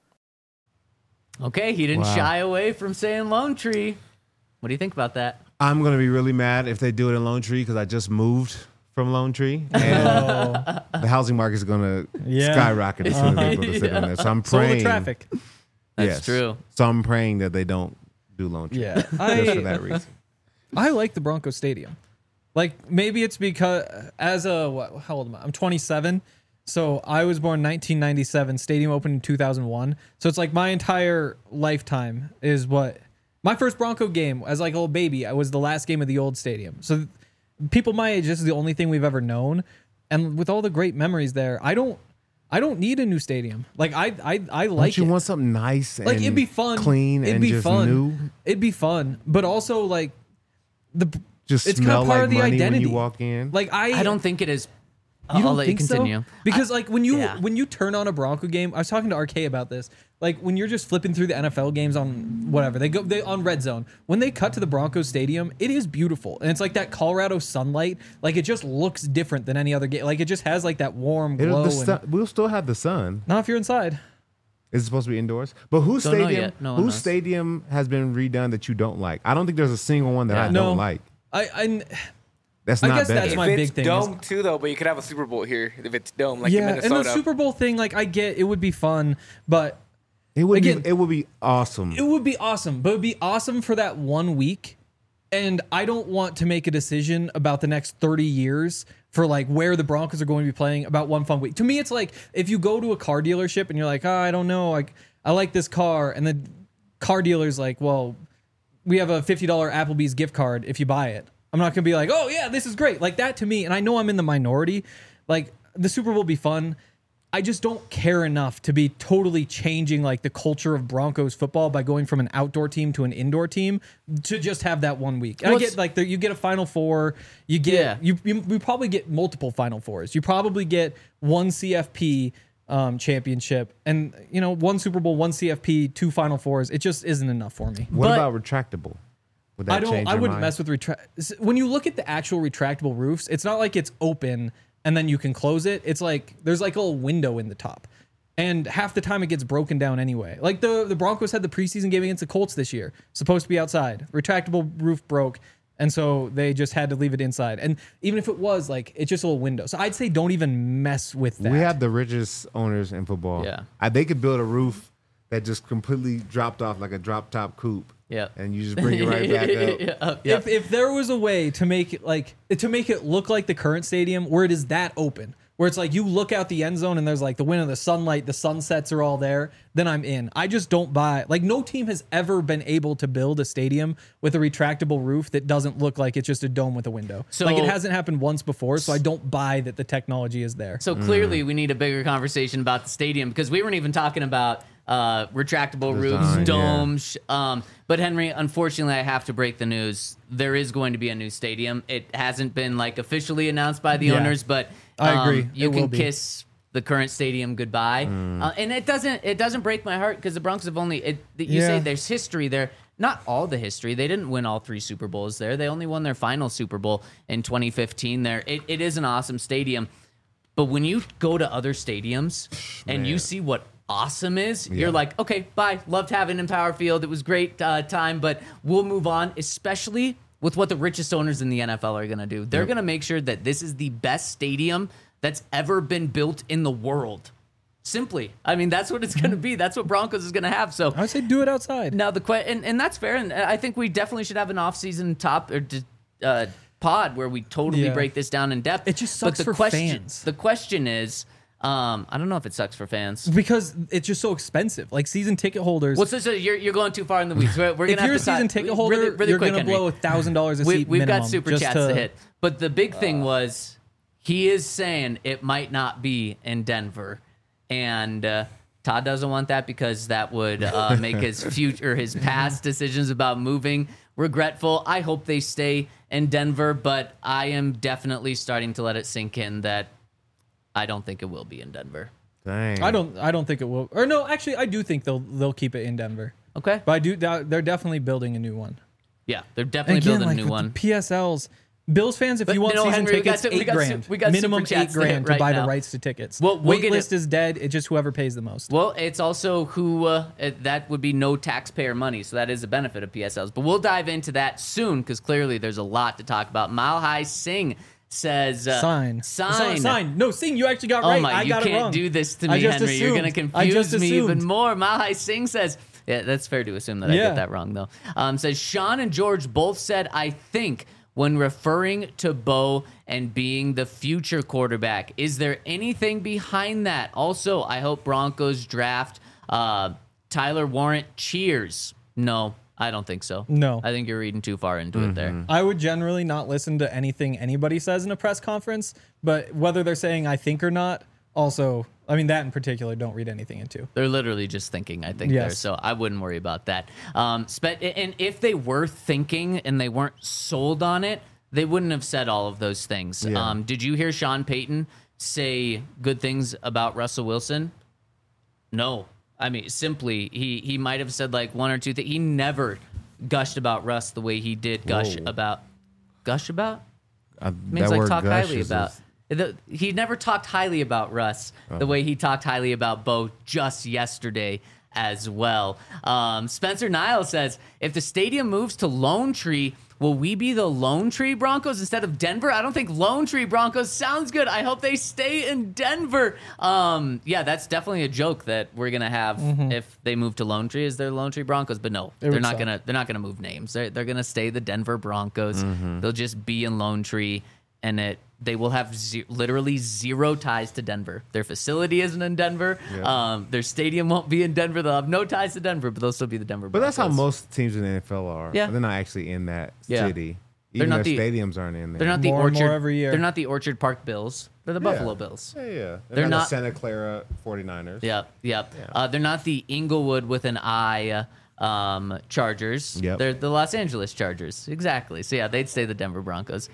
Okay, he didn't shy away from saying Lone Tree. What do you think about that? I'm going to be really mad if they do it in Lone Tree because I just moved from Lone Tree. And the housing market is going to skyrocket as soon as they put the city in there. So I'm praying. So the traffic. That's true. So I'm praying that they don't do Lone Tree. Yeah. Just for that reason. I like the Broncos Stadium. Like, maybe it's because how old am I? I'm 27. So I was born 1997. Stadium opened in 2001. So it's like my entire lifetime is what my first Bronco game as like a little baby. I was the last game of the old stadium. So people my age, this is the only thing we've ever known. And with all the great memories there, I don't need a new stadium. Like I like Don't you it. want something nice and Like it'd be fun, clean, it'd and be just fun. new? It'd be fun, but also like Just it's smell kind of part like of the money identity. when you walk in. Like I don't think it is. You don't I'll let think you continue. so? Because like when you yeah. when you turn on a Bronco game, I was talking to RK about this. Like when you're just flipping through the NFL games on whatever they on Red Zone, when they cut to the Broncos Stadium, it is beautiful, and it's like that Colorado sunlight. Like it just looks different than any other game. Like it just has like that warm glow. We'll still have the sun. Not if you're inside. Is it supposed to be indoors? But whose Don't know stadium? yet. No one Whose knows. stadium has been redone that you don't like? I don't think there's a single one that I No. don't like. I That's I not guess better. that's If my it's big thing. dome too, though, but you could have a Super Bowl here if it's dome, like in Yeah, Minnesota. and the Super Bowl thing, like I get, it would be fun, but It would Again, be. It would be awesome. it would be awesome. But it would be awesome for that 1 week, and I don't want to make a decision about the next 30 years for like where the Broncos are going to be playing about one fun week. To me, it's like if you go to a car dealership and you're like, I don't know, like I like this car, and the car dealer's like, well, we have a $50 Applebee's gift card if you buy it. I'm not gonna be like, oh yeah, this is great. Like that to me, and I know I'm in the minority. Like the Super Bowl will be fun. I just don't care enough to be totally changing like the culture of Broncos football by going from an outdoor team to an indoor team to just have that 1 week. And Well, I get like you get a Final Four, you get you probably get multiple Final Fours. You probably get one CFP championship, and one Super Bowl, one CFP, two Final Fours. It just isn't enough for me. What But- about retractable? Would that change I your wouldn't mind? mess with when you look at the actual retractable roofs, it's not like it's open and then you can close it. It's like there's like a little window in the top. And half the time it gets broken down anyway. Like the Broncos had the preseason game against the Colts this year. Supposed to be outside. Retractable roof broke. And so they just had to leave it inside. And even if it was, like, it's just a little window. So I'd say don't even mess with that. We have the richest owners in football. Yeah. They could build a roof that just completely dropped off like a drop top coupe. Yeah. And you just bring it right back up. If there was a way to make it look like the current stadium where it is that open, where it's like you look out the end zone and there's like the wind of the sunlight, the sunsets are all there, then I'm in. I just don't buy, like, no team has ever been able to build a stadium with a retractable roof that doesn't look like it's just a dome with a window. So, like, it hasn't happened once before, so I don't buy that the technology is there. So clearly we need a bigger conversation about the stadium, because we weren't even talking about retractable roofs, domes. But Henry, unfortunately, I have to break the news. There is going to be a new stadium. It hasn't been like officially announced by the owners, but I agree. You can kiss the current stadium goodbye. And it doesn't break my heart, because the Broncos have only you say there's history there. Not all the history. They didn't win all 3 Super Bowls there. They only won their final Super Bowl in 2015 there. It is an awesome stadium. But when you go to other stadiums and you see what awesome is, you're like, okay, bye. Loved having Empower Field. It was great time, but we'll move on, especially with what the richest owners in the NFL are going to do. They're going to make sure that this is the best stadium that's ever been built in the world. Simply. I mean, that's what it's going to be. That's what Broncos is going to have. So I would say do it outside. Now, and that's fair. And I think we definitely should have an off-season pod where we totally break this down in depth. It just sucks for fans. The question is, I don't know if it sucks for fans because it's just so expensive. Like season ticket holders. Well, so you're going too far in the weeks. We're gonna if you're a season ticket holder, really you're going to blow $1,000 a seat. We've got super chats to hit. But the big thing was he is saying it might not be in Denver, and Todd doesn't want that because that would make his past decisions about moving regretful. I hope they stay in Denver, but I am definitely starting to let it sink in that I don't think it will be in Denver. Dang. I don't think it will. Or no, actually, I do think they'll keep it in Denver. Okay, but they're definitely building a new one. Yeah, they're definitely building a new one. The PSLs. Bills fans, if you want season tickets, $8,000. Minimum $8,000 to buy the rights to tickets. Well, wait list is dead. It's just whoever pays the most. Well, it's also who that would be no taxpayer money, so that is a benefit of PSLs. But we'll dive into that soon because clearly there's a lot to talk about. Mile High Singh says sign. No, Singh, you actually got right. I got it wrong. You can't do this to me, Henry. You're going to confuse me even more. Mile High Singh says, yeah, that's fair to assume that I get that wrong though. Says Sean and George both said, I think, when referring to Bo and being the future quarterback. Is there anything behind that? Also, I hope Broncos draft Tyler Warrant. Cheers. No, I don't think so. No. I think you're reading too far into it there. I would generally not listen to anything anybody says in a press conference, but whether they're saying I think or not, also, I mean, that in particular, don't read anything into. They're literally just thinking, I think, there. So I wouldn't worry about that. And if they were thinking and they weren't sold on it, they wouldn't have said all of those things. Yeah. Did you hear Sean Payton say good things about Russell Wilson? No. I mean, simply, he might have said like one or two things. He never gushed about Russ the way he did gush about. Gush about? Means like talk highly about. He never talked highly about Russ the way he talked highly about Bo just yesterday as well. Spencer Niles says, if the stadium moves to Lone Tree, will we be the Lone Tree Broncos instead of Denver? I don't think Lone Tree Broncos sounds good. I hope they stay in Denver. Yeah, that's definitely a joke that we're gonna have if they move to Lone Tree. Is they're Lone Tree Broncos? But no, they're not gonna move names. They're gonna stay the Denver Broncos. They'll just be in Lone Tree, and they will have literally zero ties to Denver. Their facility isn't in Denver. Yeah. Their stadium won't be in Denver. They'll have no ties to Denver, but they'll still be the Denver Broncos. But that's how most teams in the NFL are. Yeah. They're not actually in that city. Even their stadiums aren't in there. They're not the Orchard. More every year. They're not the Orchard Park Bills. They're the Buffalo Bills. Yeah. They're not the Santa Clara 49ers. Yep. Yeah. They're not the Inglewood with an I Chargers. Yep. They're the Los Angeles Chargers. Exactly. So yeah, they'd stay the Denver Broncos.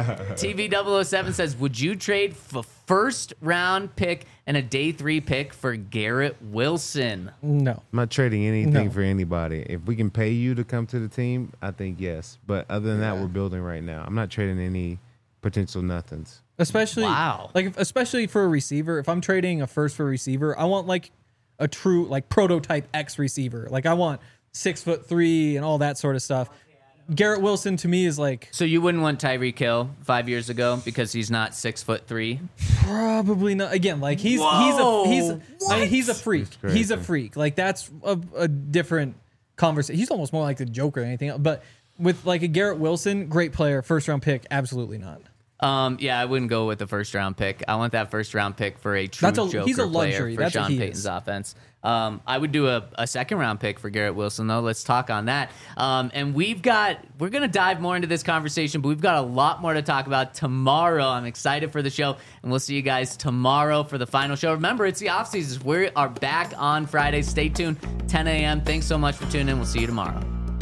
TV007 says, would you trade a first round pick and a day 3 pick for Garrett Wilson? No. I'm not trading anything for anybody. If we can pay you to come to the team, I think yes. But other than that, we're building right now. I'm not trading any potential nothings. Especially especially for a receiver. If I'm trading a first for a receiver, I want like a true like prototype X receiver. Like I want 6'3" and all that sort of stuff. Garrett Wilson to me is like So you wouldn't want Tyreek Hill 5 years ago because he's not 6'3"? probably not. Again, like he's a freak. He's a freak. Like that's a different conversation. He's almost more like the Joker than anything else. But with like a Garrett Wilson, great player, first round pick, absolutely not. Yeah, I wouldn't go with the first round pick. I want that first round pick for a true Joker he's a luxury. player for That's what Sean he Payton's is. offense. I would do a second round pick for Garrett Wilson though. Let's talk on that. And we're gonna dive more into this conversation, but we've got a lot more to talk about tomorrow. I'm excited for the show, and we'll see you guys tomorrow for the final show. Remember, it's the off season. We are back on Friday. Stay tuned, 10 a.m. Thanks so much for tuning in. We'll see you tomorrow.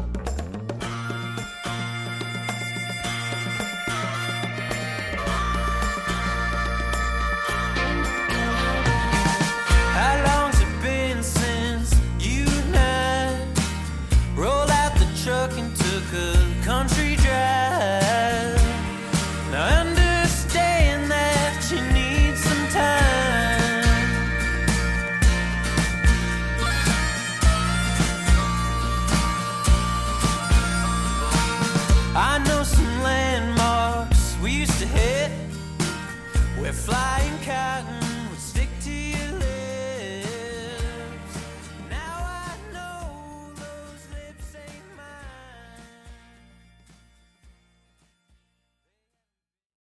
How long's it been since you and I rolled out the truck and took a country drive? Now I understand that you need some time. I know some landmarks we used to hit. We're flying cotton